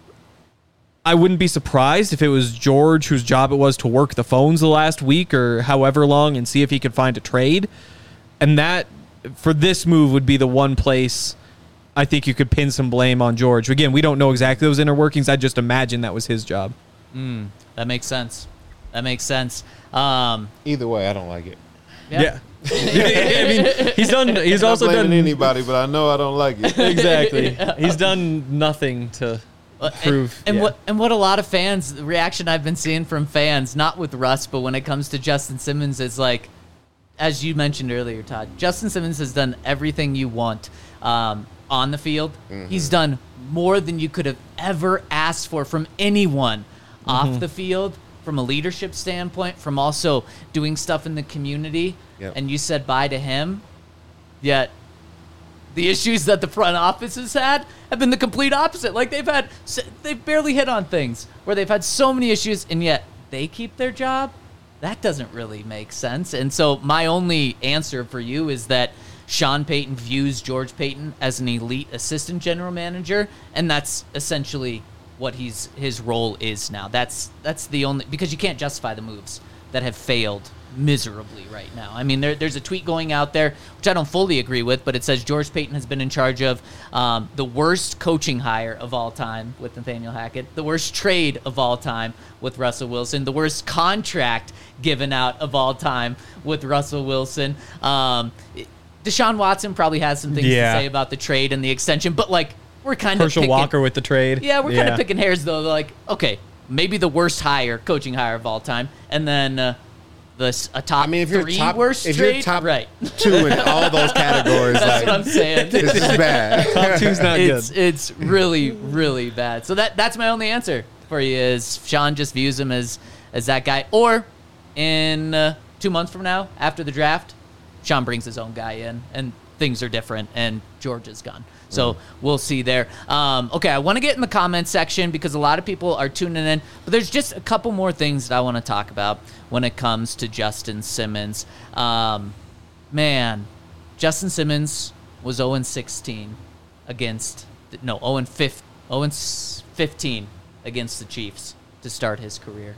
I wouldn't be surprised if it was George whose job it was to work the phones the last week or however long and see if he could find a trade. And that, for this move, would be the one place I think you could pin some blame on George. Again, we don't know exactly those inner workings. I just imagine that was his job.
Mm, that makes sense. That makes sense. Um,
Either way, I don't like it.
yeah.
yeah. I mean, he's done. He's
Not
also
blaming
done
anybody, but I know I don't like it.
exactly. He's done nothing to
Uh,
prove.
And, and
yeah.
what and what a lot of fans, the reaction I've been seeing from fans, not with Russ, but when it comes to Justin Simmons, is like, as you mentioned earlier, Todd, Justin Simmons has done everything you want um, on the field.
Mm-hmm.
He's done more than you could have ever asked for from anyone off the field, from a leadership standpoint, from also doing stuff in the community.
Yep.
And you said bye to him, yet the issues that the front office has had have been the complete opposite. Like they've had, they've barely hit on things where they've had so many issues, and yet they keep their job. That doesn't really make sense. And so my only answer for you is that Sean Payton views George Payton as an elite assistant general manager, and that's essentially what he's his role is now. That's that's the only, because you can't justify the moves that have failed miserably right now. I mean, there, there's a tweet going out there, which I don't fully agree with, but it says George Payton has been in charge of um, the worst coaching hire of all time with Nathaniel Hackett, the worst trade of all time with Russell Wilson, the worst contract given out of all time with Russell Wilson. Um, Deshaun Watson probably has some things
Yeah.
to say about the trade and the extension, but like we're kind of
Herschel
picking,
Walker with the trade.
yeah, we're kind
Yeah.
of picking hairs though. Like, okay, maybe the worst hire, coaching hire of all time, and then uh, the s- a top
I mean, if you're
three
top,
worst
if
trade,
you're top
right?
two in all those categories,
That's
like
what I'm saying.
this is bad.
Top two's not
it's
good.
it's really really bad. So that that's my only answer for you is Sean just views him as as that guy. Or in uh, two months from now, after the draft, Sean brings his own guy in, and things are different, and George is gone. So we'll see there. Um, okay, I want to get in the comments section because a lot of people are tuning in, but there's just a couple more things that I want to talk about when it comes to Justin Simmons. Um, man, Justin Simmons was oh and sixteen against, no, oh and fifteen against the Chiefs to start his career.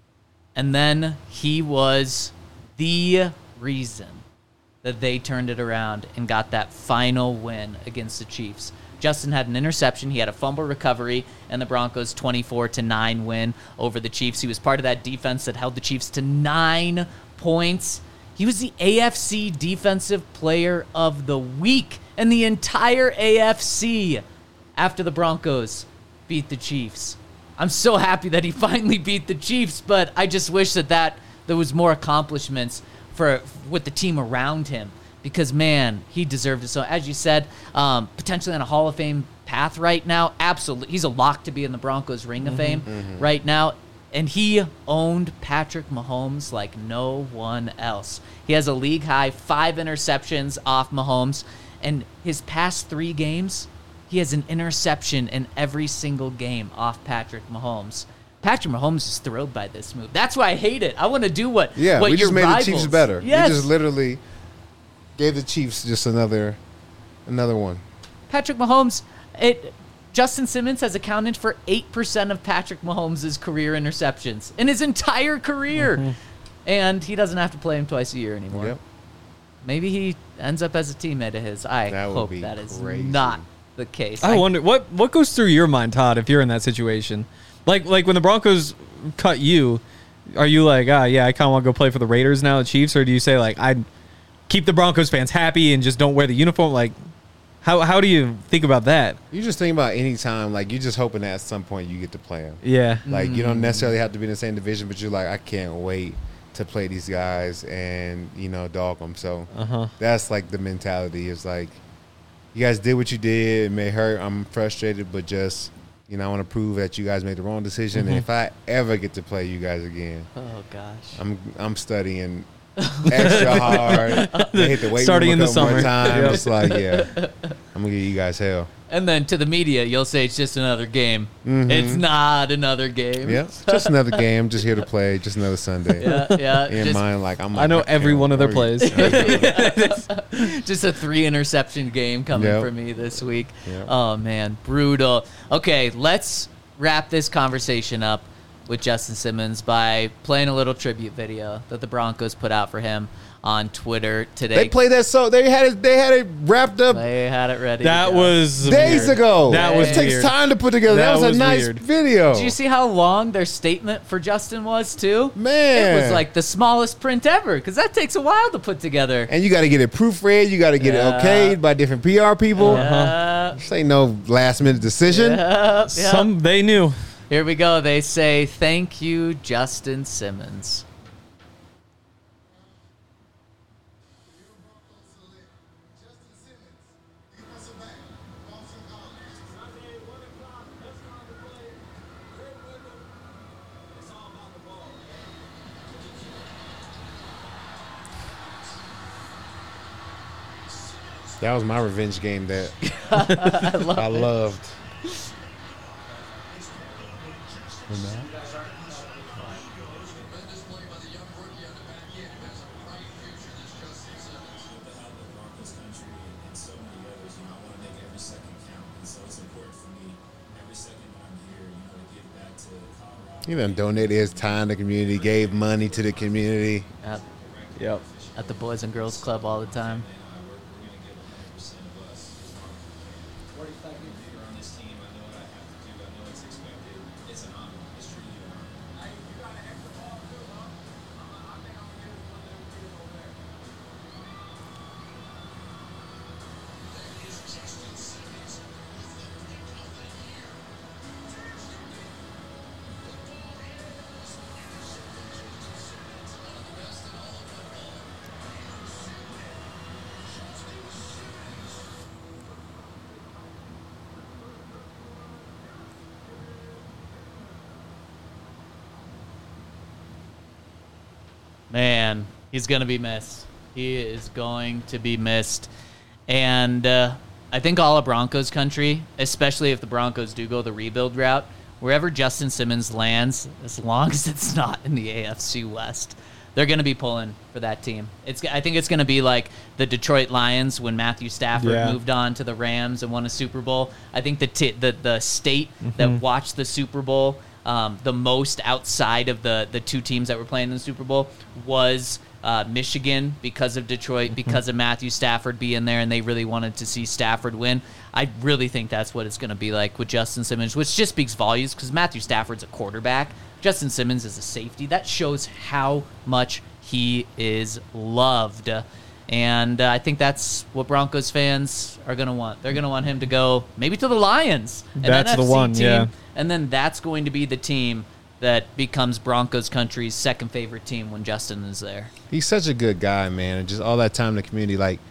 And then he was the reason that they turned it around and got that final win against the Chiefs. Justin had an interception, he had a fumble recovery, and the Broncos' twenty-four to nine win over the Chiefs. He was part of that defense that held the Chiefs to nine points. He was the A F C Defensive Player of the Week in the entire A F C after the Broncos beat the Chiefs. I'm so happy that he finally beat the Chiefs, but I just wish that, that there was more accomplishments for with the team around him, because man, he deserved it. So as you said, um, potentially on a Hall of Fame path right now. Absolutely, he's a lock to be in the Broncos Ring of Fame
mm-hmm.
right now, and he owned Patrick Mahomes like no one else. He has a league high five interceptions off Mahomes, and his past three games, he has an interception in every single game off Patrick Mahomes. Patrick Mahomes is thrilled by this move. That's why I hate it. I want to do what
Yeah,
what
we
your
just made
rivals.
the Chiefs better.
Yes.
We just literally gave the Chiefs just another another one.
Patrick Mahomes, it Justin Simmons has accounted for eight percent of Patrick Mahomes' career interceptions in his entire career.
Mm-hmm.
And he doesn't have to play him twice a year anymore.
Yep.
Maybe he ends up as a teammate of his. I
That would
hope
be
that is
crazy.
not the case.
I wonder what what goes through your mind, Todd, if you're in that situation. Like like when the Broncos cut you, are you like, ah, yeah, I kind of want to go play for the Raiders now, the Chiefs, or do you say like, I'd keep the Broncos fans happy and just don't wear the uniform? Like, how how do you think about that?
You just think about any time, like you're just hoping that at some point you get to play them.
Yeah,
Like you don't necessarily have to be in the same division, but you're like, I can't wait to play these guys and you know dog them. So
uh-huh.
that's like the mentality. Is like, you guys did what you did. It may hurt. I'm frustrated, but just you know, I want to prove that you guys made the wrong decision.
Mm-hmm.
And if I ever get to play you guys again,
Oh gosh.
I'm I'm studying extra hard. They hit the weight
Starting
room a
in the
couple more
summer.
times.
Yep.
It's like, yeah, I'm gonna give you guys hell.
And then to the media, you'll say it's just another game.
Mhm.
It's not another game.
Yeah, just another game. Just here to play. Just another Sunday.
Yeah, yeah.
In
just,
mind, like I'm.
I know
like,
every
can't
one of their
worry.
plays.
just a three interception game coming
Yep.
for me this week.
Yep.
Oh man, brutal. Okay, let's wrap this conversation up. with Justin Simmons by playing a little tribute video that the Broncos put out for him on Twitter today.
They played that so they had it they had it wrapped up
They had it ready.
That
to go.
was
days
weird.
ago.
That was
it takes
weird.
time to put together. That,
That
was a
was
nice
weird.
video.
Did you see how long their statement for Justin was too?
Man.
It was like the smallest print ever because that takes a while to put together.
And you got to get it proofread. You got to get
Yeah.
it okayed by different P R people.
Yeah.
This ain't no last minute decision.
Yep, yep.
Some they knew.
Here we go. They say, thank you, Justin Simmons.
That was my revenge game that I,
love
I loved. He done donated his time to the community, gave money to the community.
Yep.
Yep.
At the Boys and Girls Club all the time. Man, he's going to be missed. He is going to be missed. And uh, I think all of Broncos country, especially if the Broncos do go the rebuild route, wherever Justin Simmons lands, as long as it's not in the A F C West, they're going to be pulling for that team. It's. I think it's going to be like the Detroit Lions when Matthew Stafford
Yeah.
moved on to the Rams and won a Super Bowl. I think the t- the, the state
Mm-hmm.
that watched the Super Bowl um, the most outside of the, the two teams that were playing in the Super Bowl was uh, Michigan because of Detroit,
Mm-hmm.
because of Matthew Stafford being there, and they really wanted to see Stafford win. I really think that's what it's going to be like with Justin Simmons, which just speaks volumes because Matthew Stafford's a quarterback. Justin Simmons is a safety. That shows how much he is loved. And uh, I think that's what Broncos fans are going to want. They're going to want him to go maybe to the Lions. an
That's the
N F C
one,
team,
yeah.
And then that's going to be the team that becomes Broncos country's second favorite team when Justin is there.
He's such a good guy, man. And just all that time in the community. Like,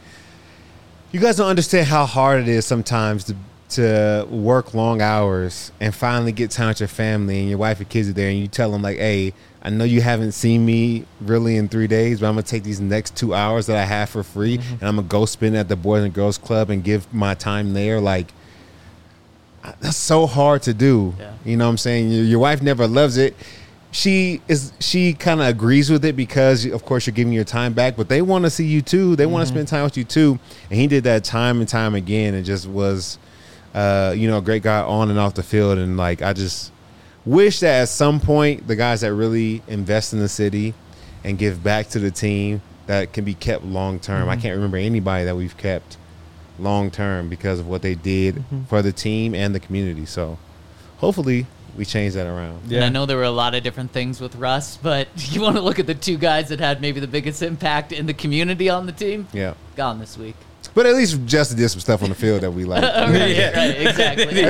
you guys don't understand how hard it is sometimes to to work long hours and finally get time with your family and your wife and kids are there and you tell them, like, hey, I know you haven't seen me really in three days, but I'm going to take these next two hours that I have for free
Mm-hmm.
and I'm going to go spend it at the Boys and Girls Club and give my time there. Like, that's so hard to do.
Yeah.
You know what I'm saying? Your, your wife never loves it. She is. She kind of agrees with it because, of course, you're giving your time back. But they want to see you too. They want to spend time with you too. And he did that time and time again. And just was, uh, you know, a great guy on and off the field. And like, I just wish that at some point the guys that really invest in the city and give back to the team that can be kept long term. I can't remember anybody that we've kept long term because of what they did for the team and the community. So hopefully we change that around.
And I know there were a lot of different things with Russ, but you want to look at the two guys that had maybe the biggest impact in the community on the team?
Yeah.
Gone this week.
But at least Justin did some stuff on the field that we like.
right, right, exactly.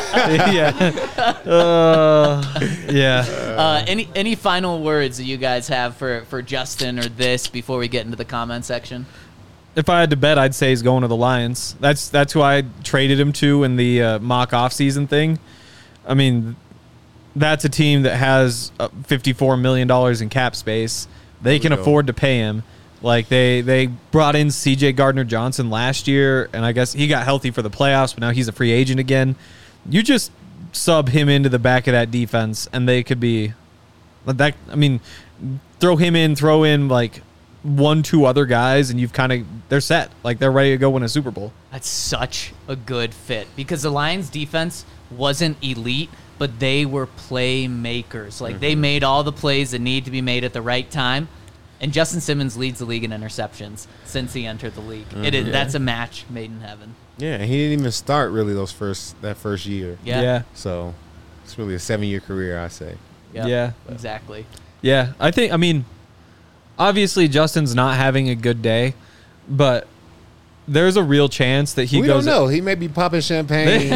yeah. Uh, yeah.
Uh, any any final words that you guys have for, for Justin or this before we get into the comment section?
If I had to bet, I'd say he's going to the Lions. That's that's who I traded him to in the uh, mock offseason thing. I mean, that's a team that has uh, fifty-four million dollars in cap space. They can
we go.
afford to pay him. Like, they, they brought in C J Gardner-Johnson last year, and I guess he got healthy for the playoffs, but now he's a free agent again. You just sub him into the back of that defense, and they could be that. I mean, throw him in, throw in like one, two other guys, and you've kind of they're set. Like, they're ready to go win a Super Bowl.
That's such a good fit because the Lions defense wasn't elite, but they were playmakers. Like, mm-hmm. they made all the plays that need to be made at the right time. And Justin Simmons leads the league in interceptions since he entered the league. Mm-hmm. It is, that's a match made in heaven.
Yeah, he didn't even start really those first that first year.
Yeah.
yeah.
So it's really a seven-year career, I say.
Yep,
yeah.
Exactly.
Yeah, I think, I mean, obviously Justin's not having a good day, but there's a real chance that he
we
goes.
We don't know. He may be popping champagne.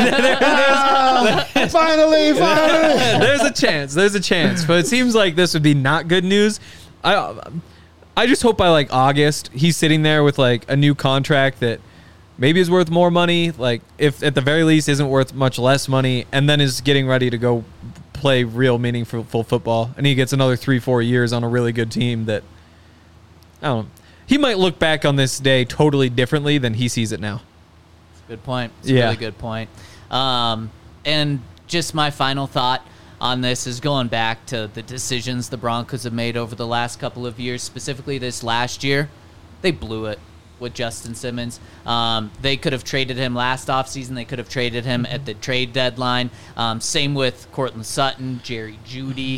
oh, finally, finally.
There's a chance. There's a chance. But it seems like this would be not good news. I I just hope by like August he's sitting there with like a new contract that maybe is worth more money, like if at the very least isn't worth much less money, and then is getting ready to go play real meaningful football, and he gets another three, four years on a really good team that, I don't know. He might look back on this day totally differently than he sees it now.
Good point. It's
yeah.
a really good point. Um, and just my final thought on this is going back to the decisions the Broncos have made over the last couple of years, specifically this last year. They blew it with Justin Simmons. Um, they could have traded him last offseason. They could have traded him at the trade deadline. Um, same with Cortland Sutton, Jerry Jeudy.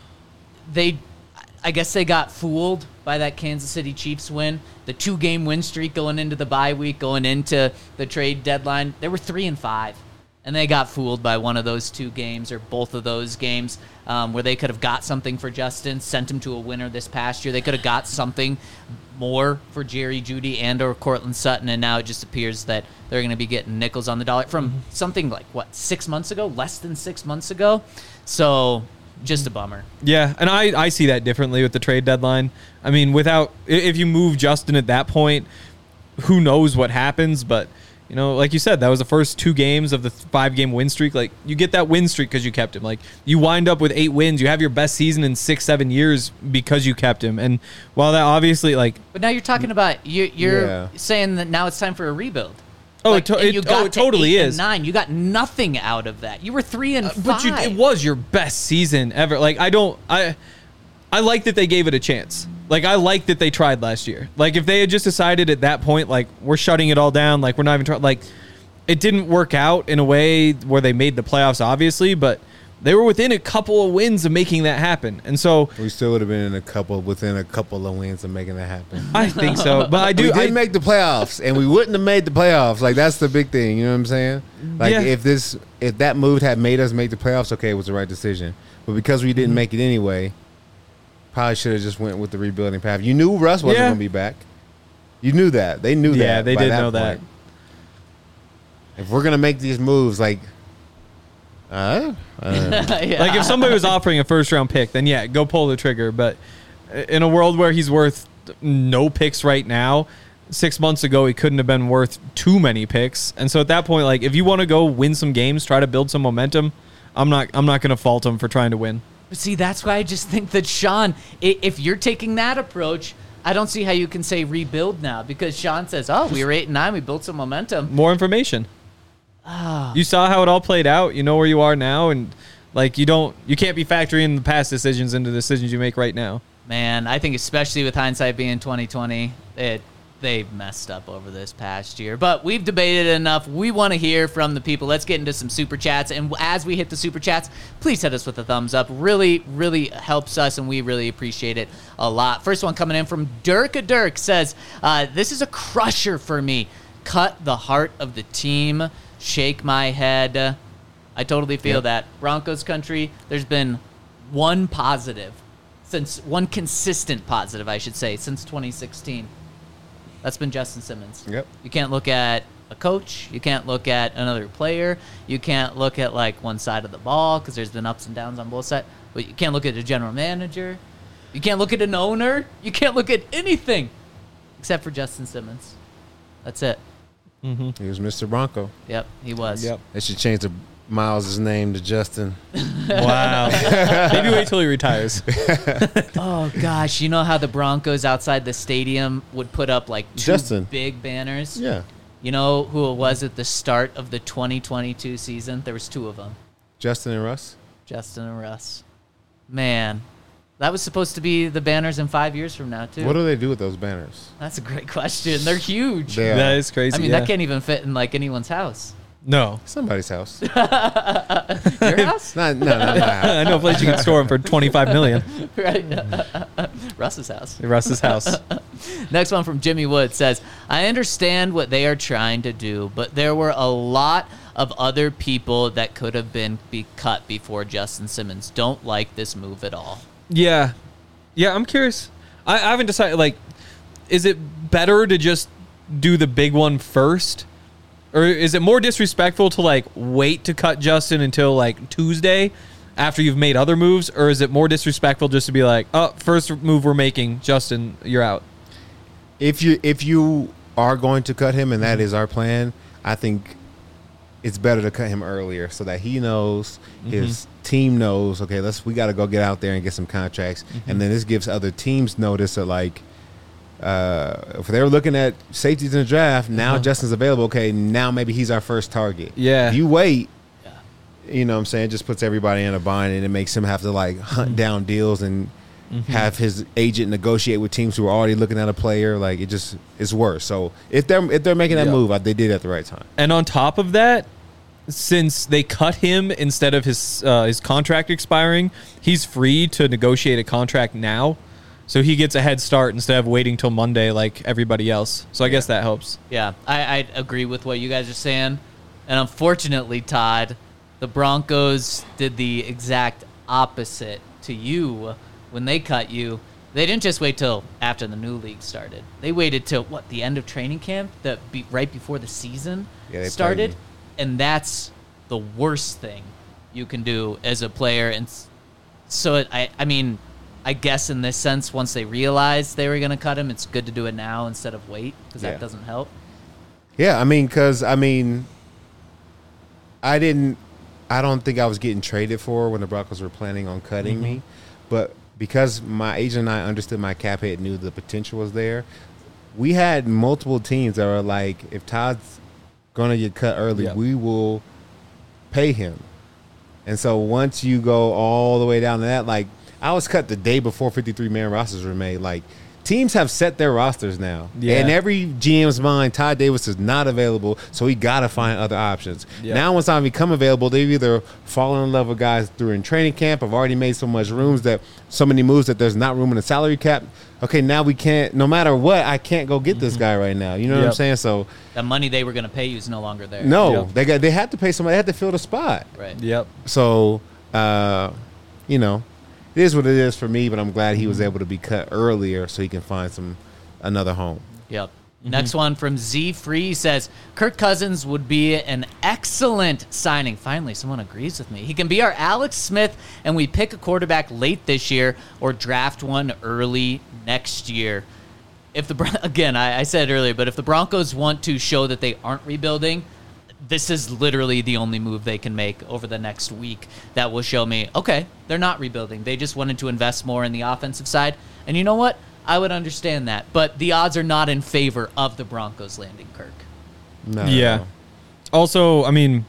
They, I guess they got fooled by that Kansas City Chiefs win. The two-game win streak going into the bye week, going into the trade deadline. They were three and five, and they got fooled by one of those two games or both of those games um, where they could have got something for Justin, sent him to a winner this past year. They could have got something more for Jerry Jeudy and or Cortland Sutton, and now it just appears that they're going to be getting nickels on the dollar from mm-hmm. something like, what, six months ago? Less than six months ago? So just a bummer.
Yeah, and I, I see that differently with the trade deadline. I mean, without if you move Justin at that point, who knows what happens, but you know, like you said, that was the first two games of the five-game win streak. Like, you get that win streak because you kept him. Like, you wind up with eight wins. You have your best season in six, seven years because you kept him. And while that obviously, like...
But now you're talking about... You, you're
yeah.
saying that now it's time for a rebuild.
Oh,
like,
it, to,
you
it,
got
oh, it totally is.
Nine. You got nothing out of that. You were three and
uh,
five.
But you, it was your best season ever. Like, I don't... I I like that they gave it a chance. Like, I like that they tried last year. Like, if they had just decided at that point, like, we're shutting it all down, like, we're not even trying... Like, it didn't work out in a way where they made the playoffs, obviously, but they were within a couple of wins of making that happen. And so...
We still would have been in a couple, within a couple of wins of making that happen.
I think so. But I do...
We did
I,
make the playoffs, and we wouldn't have made the playoffs. Like, that's the big thing, you know what I'm saying? Like,
yeah.
if this... If that move had made us make the playoffs, okay, it was the right decision. But because we didn't make it anyway... Probably should have just went with the rebuilding path. You knew Russ wasn't
yeah.
going to be back. You knew that. They knew that.
Yeah, they did
that
know
point.
that.
If we're going to make these moves, like, uh, uh.
yeah.
Like, if somebody was offering a first-round pick, then, yeah, go pull the trigger. But in a world where he's worth no picks right now, six months ago he couldn't have been worth too many picks. And so at that point, like, if you want to go win some games, try to build some momentum, I'm not I'm not going to fault him for trying to win.
But see, that's why I just think that, Sean, if you're taking that approach, I don't see how you can say rebuild now, because Sean says, oh, we were eight and nine, we built some momentum.
More information.
Oh.
You saw how it all played out. You know where you are now, and like you don't, you can't be factoring the past decisions into the decisions you make right now.
Man, I think especially with hindsight being twenty twenty, it they messed up over this past year. But we've debated enough. We want to hear from the people. Let's get into some super chats. And as we hit the super chats, please hit us with a thumbs up. Really, really helps us, and we really appreciate it a lot. First one coming in from Dirk a Dirk says, uh, this is a crusher for me. Cut the heart of the team. Shake my head. I totally feel
yep.
that. Broncos country, there's been one positive, since one consistent positive, I should say, since twenty sixteen. That's been Justin Simmons.
Yep.
You can't look at a coach. You can't look at another player. You can't look at, like, one side of the ball because there's been ups and downs on both sides. But you can't look at a general manager. You can't look at an owner. You can't look at anything except for Justin Simmons. That's it.
Mm-hmm.
He was Mister Bronco.
Yep, he was.
Yep.
They should change the Miles' name to Justin.
Wow. Maybe wait till he retires.
Oh, gosh. You know how the Broncos outside the stadium would put up, like, two
Justin.
big banners?
Yeah.
You know who it was at the start of the twenty twenty-two season? There was two of them.
Justin and Russ?
Justin and Russ. Man, that was supposed to be the banners in five years from now, too.
What do they do with those banners?
That's a great question. They're huge.
They are.
That is crazy.
I mean,
yeah.
that can't even fit in, like, anyone's house.
No.
Somebody's house.
Your house?
Not, no, not my house.
I know a place you can store them for twenty-five million
Right. Russ's house.
Russ's house.
Next one from Jimmy Wood says, I understand what they are trying to do, but there were a lot of other people that could have been be cut before Justin Simmons. Don't like this move at all.
Yeah. Yeah, I'm curious. I, I haven't decided, like, is it better to just do the big one first? Or is it more disrespectful to, like, wait to cut Justin until, like, Tuesday after you've made other moves? Or is it more disrespectful just to be like, oh, first move we're making, Justin, you're out?
If you if you are going to cut him, and that is our plan, I think it's better to cut him earlier so that he knows, his mm-hmm. team knows, okay, let's we got to go get out there and get some contracts. Mm-hmm. And then this gives other teams notice that, like, uh, if they were looking at safeties in the draft, now uh-huh. Justin's available. Okay, now maybe he's our first target.
Yeah.
If you wait,
yeah.
you know what I'm saying, it just puts everybody in a bind, and it makes him have to, like, hunt mm-hmm. down deals and mm-hmm. have his agent negotiate with teams who are already looking at a player. Like, it just it's worse. So if they're if they're making that yep. move, they did it at the right time.
And on top of that, since they cut him instead of his uh, his contract expiring, he's free to negotiate a contract now. So he gets a head start instead of waiting till Monday like everybody else. So I yeah. guess that helps.
Yeah, I, I agree with what you guys are saying. And unfortunately, Todd, the Broncos did the exact opposite to you when they cut you. They didn't just wait till after the new league started. They waited till, what, the end of training camp, the, be, right before the season
yeah,
started? And that's the worst thing you can do as a player. And so, it, I, I mean, I guess in this sense, once they realized they were going to cut him, it's good to do it now instead of wait, because
yeah.
that doesn't help.
Yeah, I mean, because, I mean, I didn't, I don't think I was getting traded for when the Broncos were planning on cutting mm-hmm. me. But because my agent and I understood my cap hit, knew the potential was there, we had multiple teams that were like, if Todd's going to get cut early, yep. we will pay him. And so once you go all the way down to that, like, I was cut the day before fifty-three man rosters were made. Like, teams have set their rosters now. Yeah. And every G M's mind, Todd Davis is not available, so he got to find other options. Yep. Now once I become available, they've either fallen in love with guys during training camp, have already made so much rooms that so many moves that there's not room in the salary cap. Okay, now we can't, no matter what, I can't go get mm-hmm. this guy right now. You know yep. what I'm saying? So
the money they were going to pay you is no longer there.
No,
yep.
they got they had to pay somebody. They had to fill the spot.
Right.
Yep.
So, uh, you know, it is what it is for me, but I'm glad he was able to be cut earlier so he can find some another home.
Yep. Mm-hmm. Next one from Z Free says, Kirk Cousins would be an excellent signing. Finally, someone agrees with me. He can be our Alex Smith, and we pick a quarterback late this year or draft one early next year. If the Again, I, I said earlier, but if the Broncos want to show that they aren't rebuilding, this is literally the only move they can make over the next week that will show me, okay, they're not rebuilding. They just wanted to invest more in the offensive side. And you know what? I would understand that. But the odds are not in favor of the Broncos landing Kirk.
No.
Yeah. Also, I mean,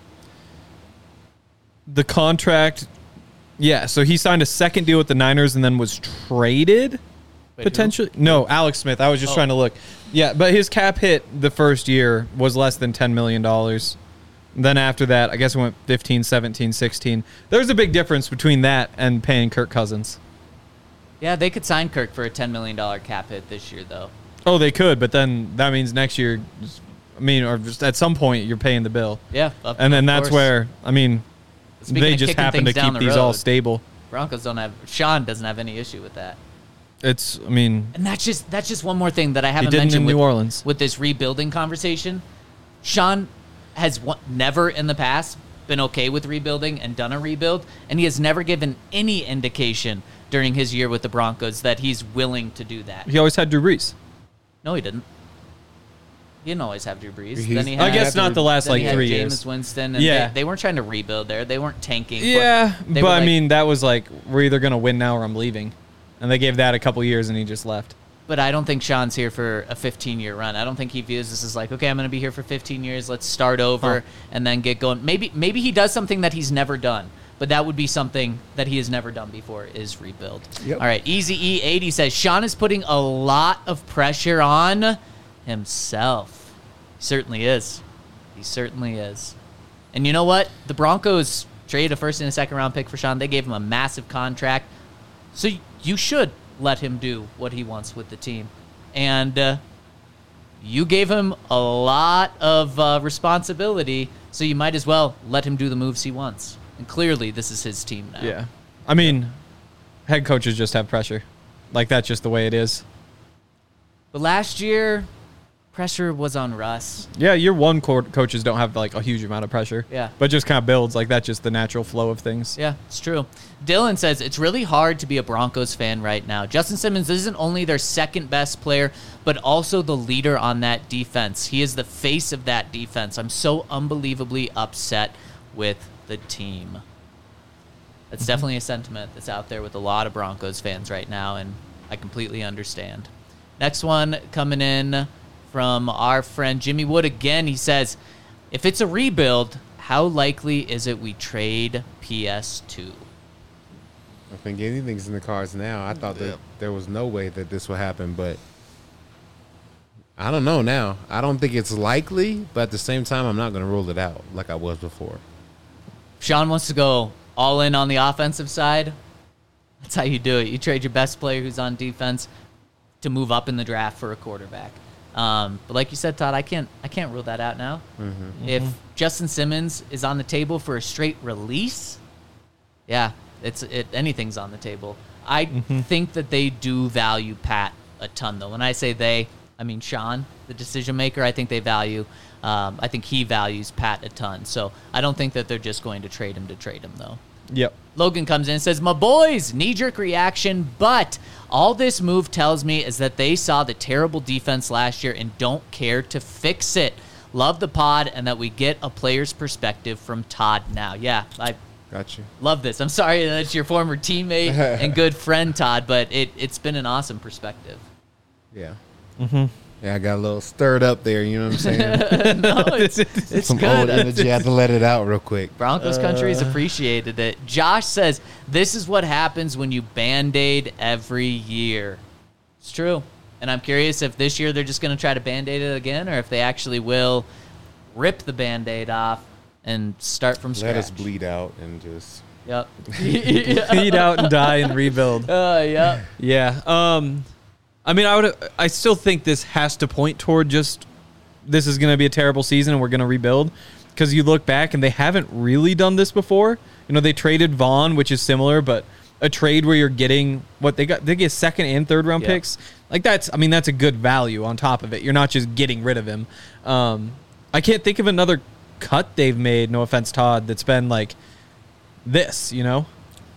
the contract, yeah, so he signed a second deal with the Niners and then was traded, Wait, potentially. Who? No, Alex Smith. I was just oh. trying to look. Yeah, but his cap hit the first year was less than ten million dollars. Then after that, I guess it went fifteen, seventeen, sixteen. There's a big difference between that and paying Kirk Cousins.
Yeah, they could sign Kirk for a ten million dollars cap hit this year, though.
Oh, they could, but then that means next year, I mean, or just at some point, you're paying the bill.
Yeah. Of,
and then
of
that's
course.
where, I mean,
Speaking
they just happen to keep the these
road,
all stable.
Broncos don't have, Sean doesn't have any issue with that.
It's, I mean,
and that's just that's just one more thing that I haven't
didn't
mentioned
in
with,
New Orleans.
with this rebuilding conversation. Sean has one, never in the past been okay with rebuilding and done a rebuild, and he has never given any indication during his year with the Broncos that he's willing to do that.
He always had Drew Brees.
No, he didn't. He didn't always have Drew Brees.
He's,
then he had,
I guess not the last like three
Jameis
years.
Winston, and
yeah,
they, they weren't trying to rebuild there. They weren't tanking.
Yeah,
they
but
like,
I mean, that was like, we're either going to win now or I'm leaving. And they gave that a couple years, and he just left.
But I don't think Sean's here for a fifteen-year run. I don't think he views this as like, okay, I'm going to be here for fifteen years. Let's start over huh. and then get going. Maybe maybe he does something that he's never done, but that would be something that he has never done before is rebuild.
Yep.
All right, Easy E eighty says, Sean is putting a lot of pressure on himself. He certainly is. He certainly is. And you know what? The Broncos traded a first and a second round pick for Sean. They gave him a massive contract. So you should let him do what he wants with the team. And uh, you gave him a lot of uh, responsibility, so you might as well let him do the moves he wants. And clearly, this is his team now.
Yeah. I mean, head coaches just have pressure. Like, that's just the way it is.
But last year, pressure was on Russ.
Yeah, year one co- coaches don't have, like, a huge amount of pressure.
Yeah.
But just kind of builds. Like, that's just the natural flow of things.
Yeah, it's true. Dylan says, it's really hard to be a Broncos fan right now. Justin Simmons isn't only their second best player, but also the leader on that defense. He is the face of that defense. I'm so unbelievably upset with the team. That's mm-hmm. definitely a sentiment that's out there with a lot of Broncos fans right now, and I completely understand. Next one coming in from our friend Jimmy Wood again. He says, if it's a rebuild, how likely is it we trade P S two?
I think anything's in the cards now. I thought that
Yeah.
there was no way that this would happen, but I don't know now. I don't think it's likely, but at the same time, I'm not going to rule it out like I was before.
Sean wants to go all in on the offensive side. That's how you do it. You trade your best player who's on defense to move up in the draft for a quarterback. Um, but like you said, Todd, I can't I can't rule that out now. Mm-hmm. If Justin Simmons is on the table for a straight release, yeah, it's it anything's on the table. I mm-hmm. think that they do value Pat a ton, though. When I say they, I mean Sean, the decision maker. I think they value. Um, I think he values Pat a ton. So I don't think that they're just going to trade him to trade him, though.
Yep.
Logan comes in and says, my boys, knee-jerk reaction, but all this move tells me is that they saw the terrible defense last year and don't care to fix it. Love the pod and that we get a player's perspective from Todd now. Yeah, I
Got you.
love this. I'm sorry that it's your former teammate and good friend, Todd, but it, it's been an awesome perspective.
Yeah.
Mm-hmm.
Yeah, I got a little stirred up there, you know what I'm saying?
No, it's, it's
Some
good.
old energy. I had to let it out real quick.
Broncos country has appreciated it. Josh says, this is what happens when you Band-Aid every year. It's true. And I'm curious if this year they're just going to try to Band-Aid it again, or if they actually will rip the Band-Aid off and start from scratch.
Let us bleed out and just...
Yep.
Feed out and die and rebuild.
Uh, yep.
Yeah. Um, I mean, I would. I still think this has to point toward just this is going to be a terrible season and we're going to rebuild, because you look back and they haven't really done this before. You know, they traded Vaughn, which is similar, but a trade where you're getting what they got. They get second and third round
Yeah.
picks. Like that's. I mean, that's a good value on top of it. You're not just getting rid of him. Um, I can't think of another cut they've made. No offense, Todd. That's been like this. You know.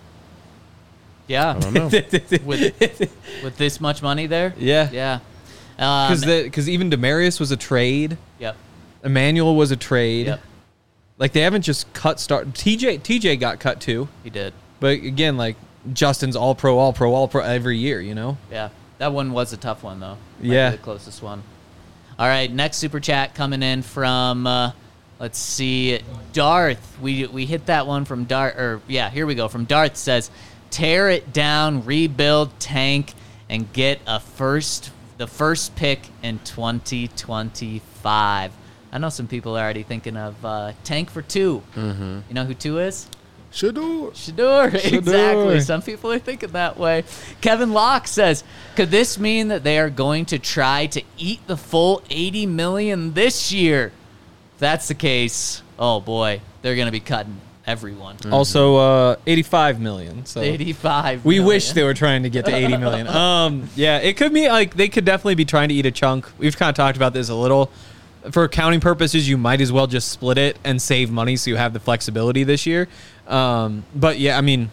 Yeah.
I don't know.
with, with this much money there?
Yeah.
Yeah. Um,
Because because even Demarius was a trade.
Yep.
Emmanuel was a trade.
Yep.
Like they haven't just cut start. T J T J got cut too.
He did.
But again, like Justin's all pro, all pro, all pro every year. You know.
Yeah. That one was a tough one, though. Might be
Yeah.
the closest one. All right. Next super chat coming in from, uh, let's see, Darth. We we hit that one from Darth. Or yeah, here we go. From Darth says, tear it down, rebuild, tank, and get a first, the first pick in twenty twenty-five. I know some people are already thinking of uh, tank for two. Mm-hmm. You know who two is?
Shador.
Shador, exactly. Some people are thinking that way. Kevin Locke says, could this mean that they are going to try to eat the full eighty million dollars this year? If that's the case, oh boy, they're going to be cutting everyone.
Mm-hmm. Also, uh, eighty-five million. So
eighty-five
we
million.
wish they were trying to get to eighty million. Um, yeah, it could be like they could definitely be trying to eat a chunk. We've kind of talked about this a little. For accounting purposes, you might as well just split it and save money so you have the flexibility this year. Um, but yeah, I mean,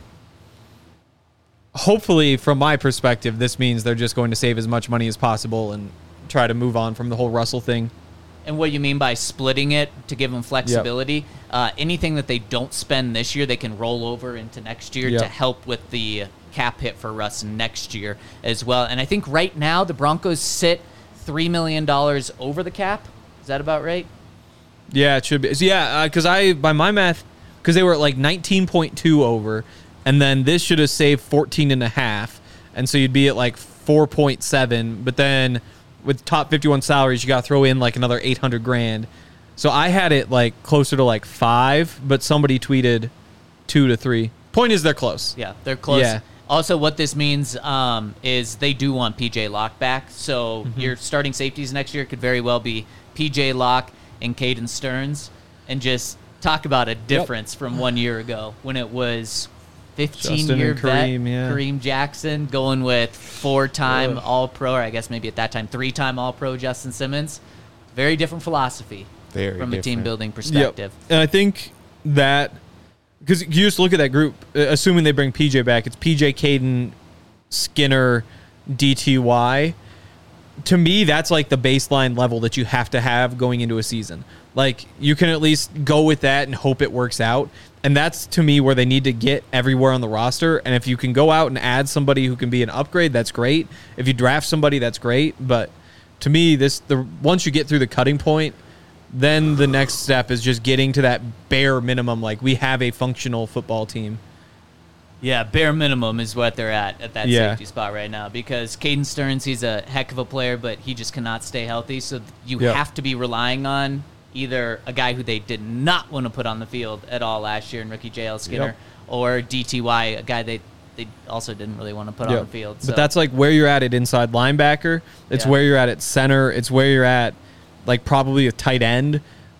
hopefully, from my perspective, this means they're just going to save as much money as possible and try to move on from the whole Russell thing.
And what you mean by splitting it to give them flexibility, yep. uh, anything that they don't spend this year, they can roll over into next year
yep.
to help with the cap hit for Russ next year as well. And I think right now the Broncos sit three million dollars over the cap. Is that about right?
Yeah, it should be. So yeah, because uh, I, by my math, because they were at like nineteen point two over, and then this should have saved fourteen and a half, and so you'd be at like four point seven, but then with top fifty-one salaries, you got to throw in like another eight hundred grand. So I had it like closer to like five, but somebody tweeted two to three. Point is, they're close.
Yeah, they're close.
Yeah.
Also, what this means um, is they do want P J Locke back. So
Mm-hmm.
your starting safeties next year could very well be P J Locke and Caden Stearns. And just talk about a difference from one year ago when it was fifteen-year
and
vet
Kareem, yeah.
Kareem Jackson going with four-time
Ugh.
All-Pro, or I guess maybe at that time three-time All-Pro Justin Simmons. Very different philosophy
Very
from a
different.
team-building perspective.
Yep. And I think that, because you just look at that group, uh, assuming they bring P J back, it's P J, Caden, Skinner, D T Y. To me, that's like the baseline level that you have to have going into a season. Like, you can at least go with that and hope it works out. And that's, to me, where they need to get everywhere on the roster. And if you can go out and add somebody who can be an upgrade, that's great. If you draft somebody, that's great. But to me, this the once you get through the cutting point, then the next step is just getting to that bare minimum. Like, we have a functional football team.
Yeah, bare minimum is what they're at at that
Yeah.
safety spot right now, because Caden Stearns, he's a heck of a player, but he just cannot stay healthy. So you
Yep.
have to be relying on either a guy who they did not want to put on the field at all last year in rookie J L Skinner,
Yep.
or D T Y, a guy they they also didn't really want to put
Yep.
on the field. So.
But that's like where you're at at inside linebacker. It's
Yeah.
where you're at at center. It's where you're at, like, probably a tight end.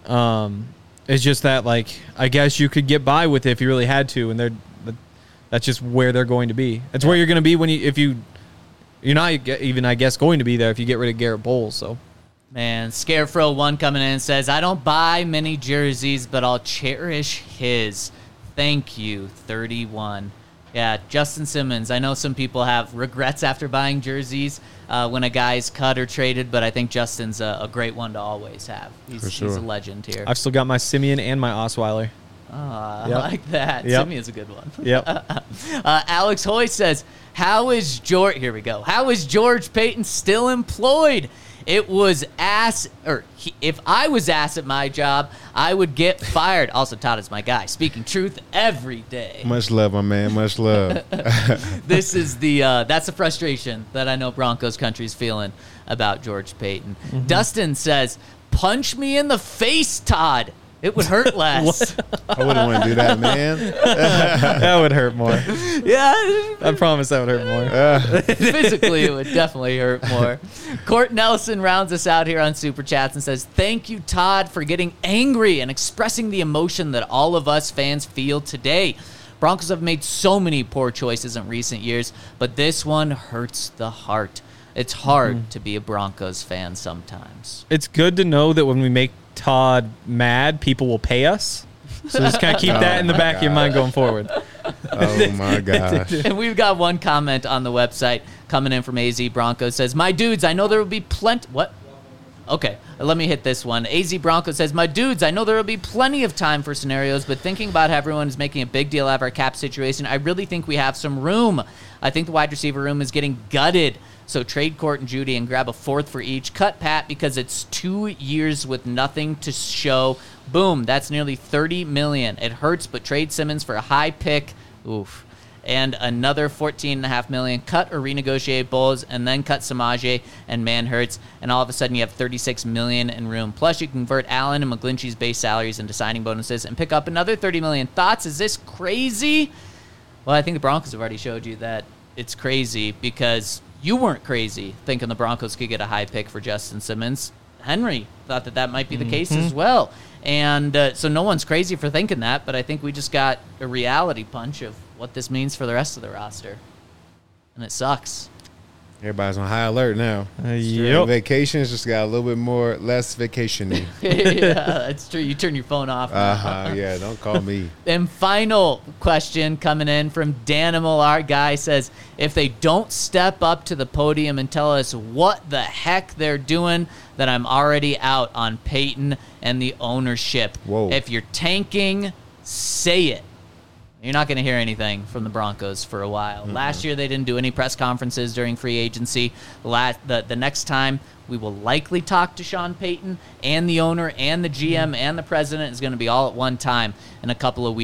Um, it's just that, like, I guess you could get by with it if you really had to, and they're that's just where they're going to be. It's where you're going to be when you if you you're not even, I guess, going to be there if you get rid of Garrett Bowles. So.
Man, Scarefro one coming in and says, I don't buy many jerseys, but I'll cherish his. Thank you, thirty-one. Yeah, Justin Simmons. I know some people have regrets after buying jerseys uh, when a guy's cut or traded, but I think Justin's a, a great one to always have. He's,
For sure.
he's a legend here.
I've still got my Simeon and my Osweiler.
Ah,
Yep.
I like that.
Yep.
Simeon's a good one.
Yep.
uh, Alex Hoy says, how is George, here we go, how is George Payton still employed? It was ass, or he, if I was ass at my job, I would get fired. Also, Todd is my guy, speaking truth every day.
Much love, my man. Much love.
This is the, uh, that's the frustration that I know Broncos country's feeling about George Payton.
Mm-hmm.
Dustin says, punch me in the face, Todd. It would hurt less.
I wouldn't want to do that, man.
That would hurt more.
Yeah.
I promise that would hurt more.
Physically, it would definitely hurt more. Court Nelson rounds us out here on Super Chats and says, thank you, Todd, for getting angry and expressing the emotion that all of us fans feel today. Broncos have made so many poor choices in recent years, but this one hurts the heart. It's hard
Mm-hmm.
to be a Broncos fan sometimes.
It's good to know that when we make Todd mad, people will pay us. So just kind of keep that in the
Oh,
back
my
of your mind going forward.
Oh, my gosh.
And we've got one comment on the website coming in from A Z Broncos. Says, my dudes, I know there will be plenty... What? Okay, let me hit this one. A Z Bronco says, my dudes, I know there will be plenty of time for scenarios, but thinking about how everyone is making a big deal out of our cap situation, I really think we have some room. I think the wide receiver room is getting gutted. So trade Court and Judy and grab a fourth for each. Cut Pat because it's two years with nothing to show. Boom, that's nearly thirty million dollars. It hurts, but trade Simmons for a high pick. Oof. And another fourteen point five million dollars. Cut or renegotiate Bowles, and then cut Samaje and Manhurts, and all of a sudden you have thirty-six million dollars in room. Plus you convert Allen and McGlinchey's base salaries into signing bonuses and pick up another thirty million dollars. Thoughts? Is this crazy? Well, I think the Broncos have already showed you that it's crazy because you weren't crazy thinking the Broncos could get a high pick for Justin Simmons. Henry thought that that might be the case as well. And uh, so no one's crazy for thinking that, but I think we just got a reality punch of what this means for the rest of the roster. And it sucks.
Everybody's on high alert now.
Uh, yep.
Vacations just got a little bit more, less vacation-y.
Yeah, that's true. You turn your phone off.
Uh-huh, yeah, don't call me.
And final question coming in from Danimal, our guy, says, if they don't step up to the podium and tell us what the heck they're doing, then I'm already out on Peyton and the ownership.
Whoa.
If you're tanking, say it. You're not going to hear anything from the Broncos for a while. Mm-hmm. Last year, they didn't do any press conferences during free agency. Last, the, the next time, we will likely talk to Sean Payton, and the owner and the G M mm-hmm. and the president is going to be all at one time in a couple of weeks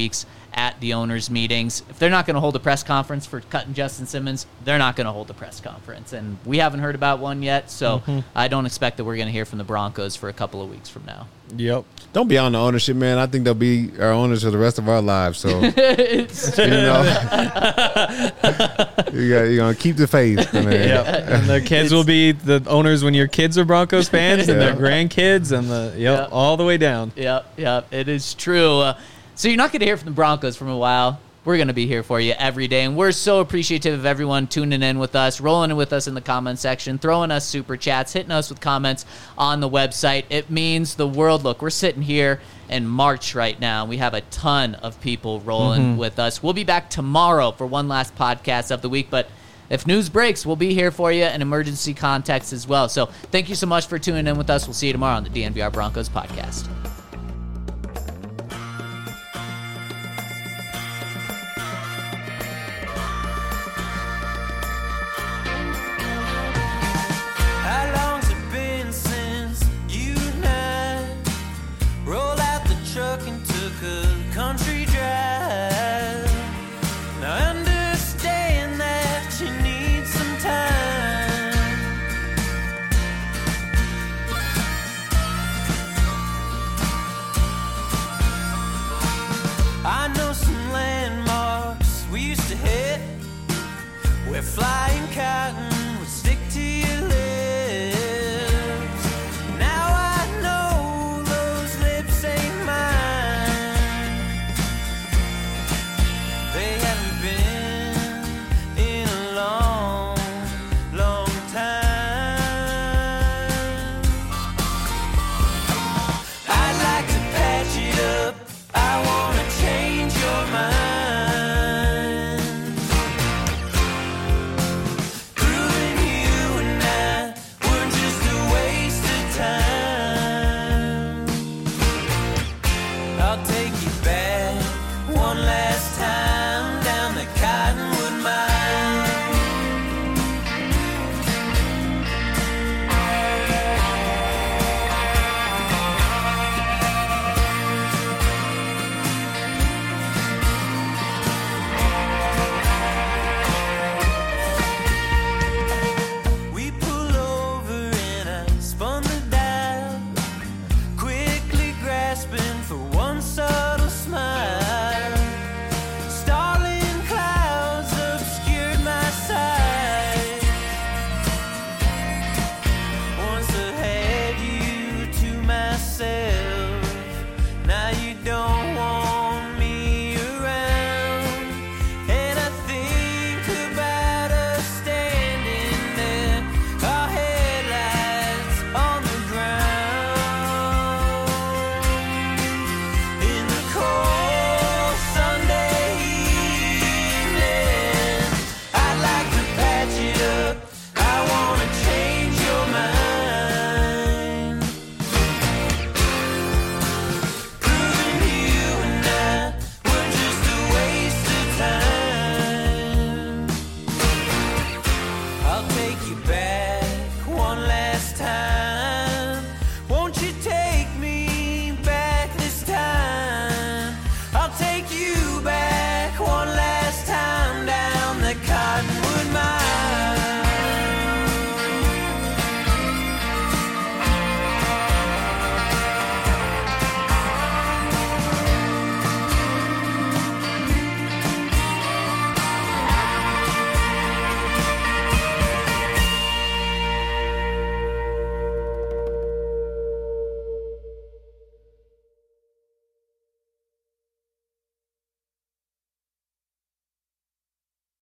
at the owners' meetings. If they're not going to hold a press conference for cutting Justin Simmons, they're not going to hold a press conference. And we haven't heard about one yet, so mm-hmm. I don't expect that we're going to hear from the Broncos for a couple of weeks from now.
Yep.
Don't be on the ownership, man. I think they'll be our owners for the rest of our lives. So, you know, you got, you're going to keep the faith. Man.
Yep. And the kids it's, will be the owners when your kids are Broncos fans and yeah. their grandkids and the, yep, yep, all the way down.
Yep, yep, it is true. Uh, so you're not going to hear from the Broncos for a while. We're going to be here for you every day, and we're so appreciative of everyone tuning in with us, rolling with us in the comment section, throwing us super chats, hitting us with comments on the website. It means the world. Look, we're sitting here in March right now. We have a ton of people rolling mm-hmm. with us. We'll be back tomorrow for one last podcast of the week, but if news breaks, we'll be here for you in emergency context as well. So thank you so much for tuning in with us. We'll see you tomorrow on the D N V R Broncos podcast.
Country drive. Now understand that you need some time. I know some landmarks we used to hit where flying cotton would stick to you.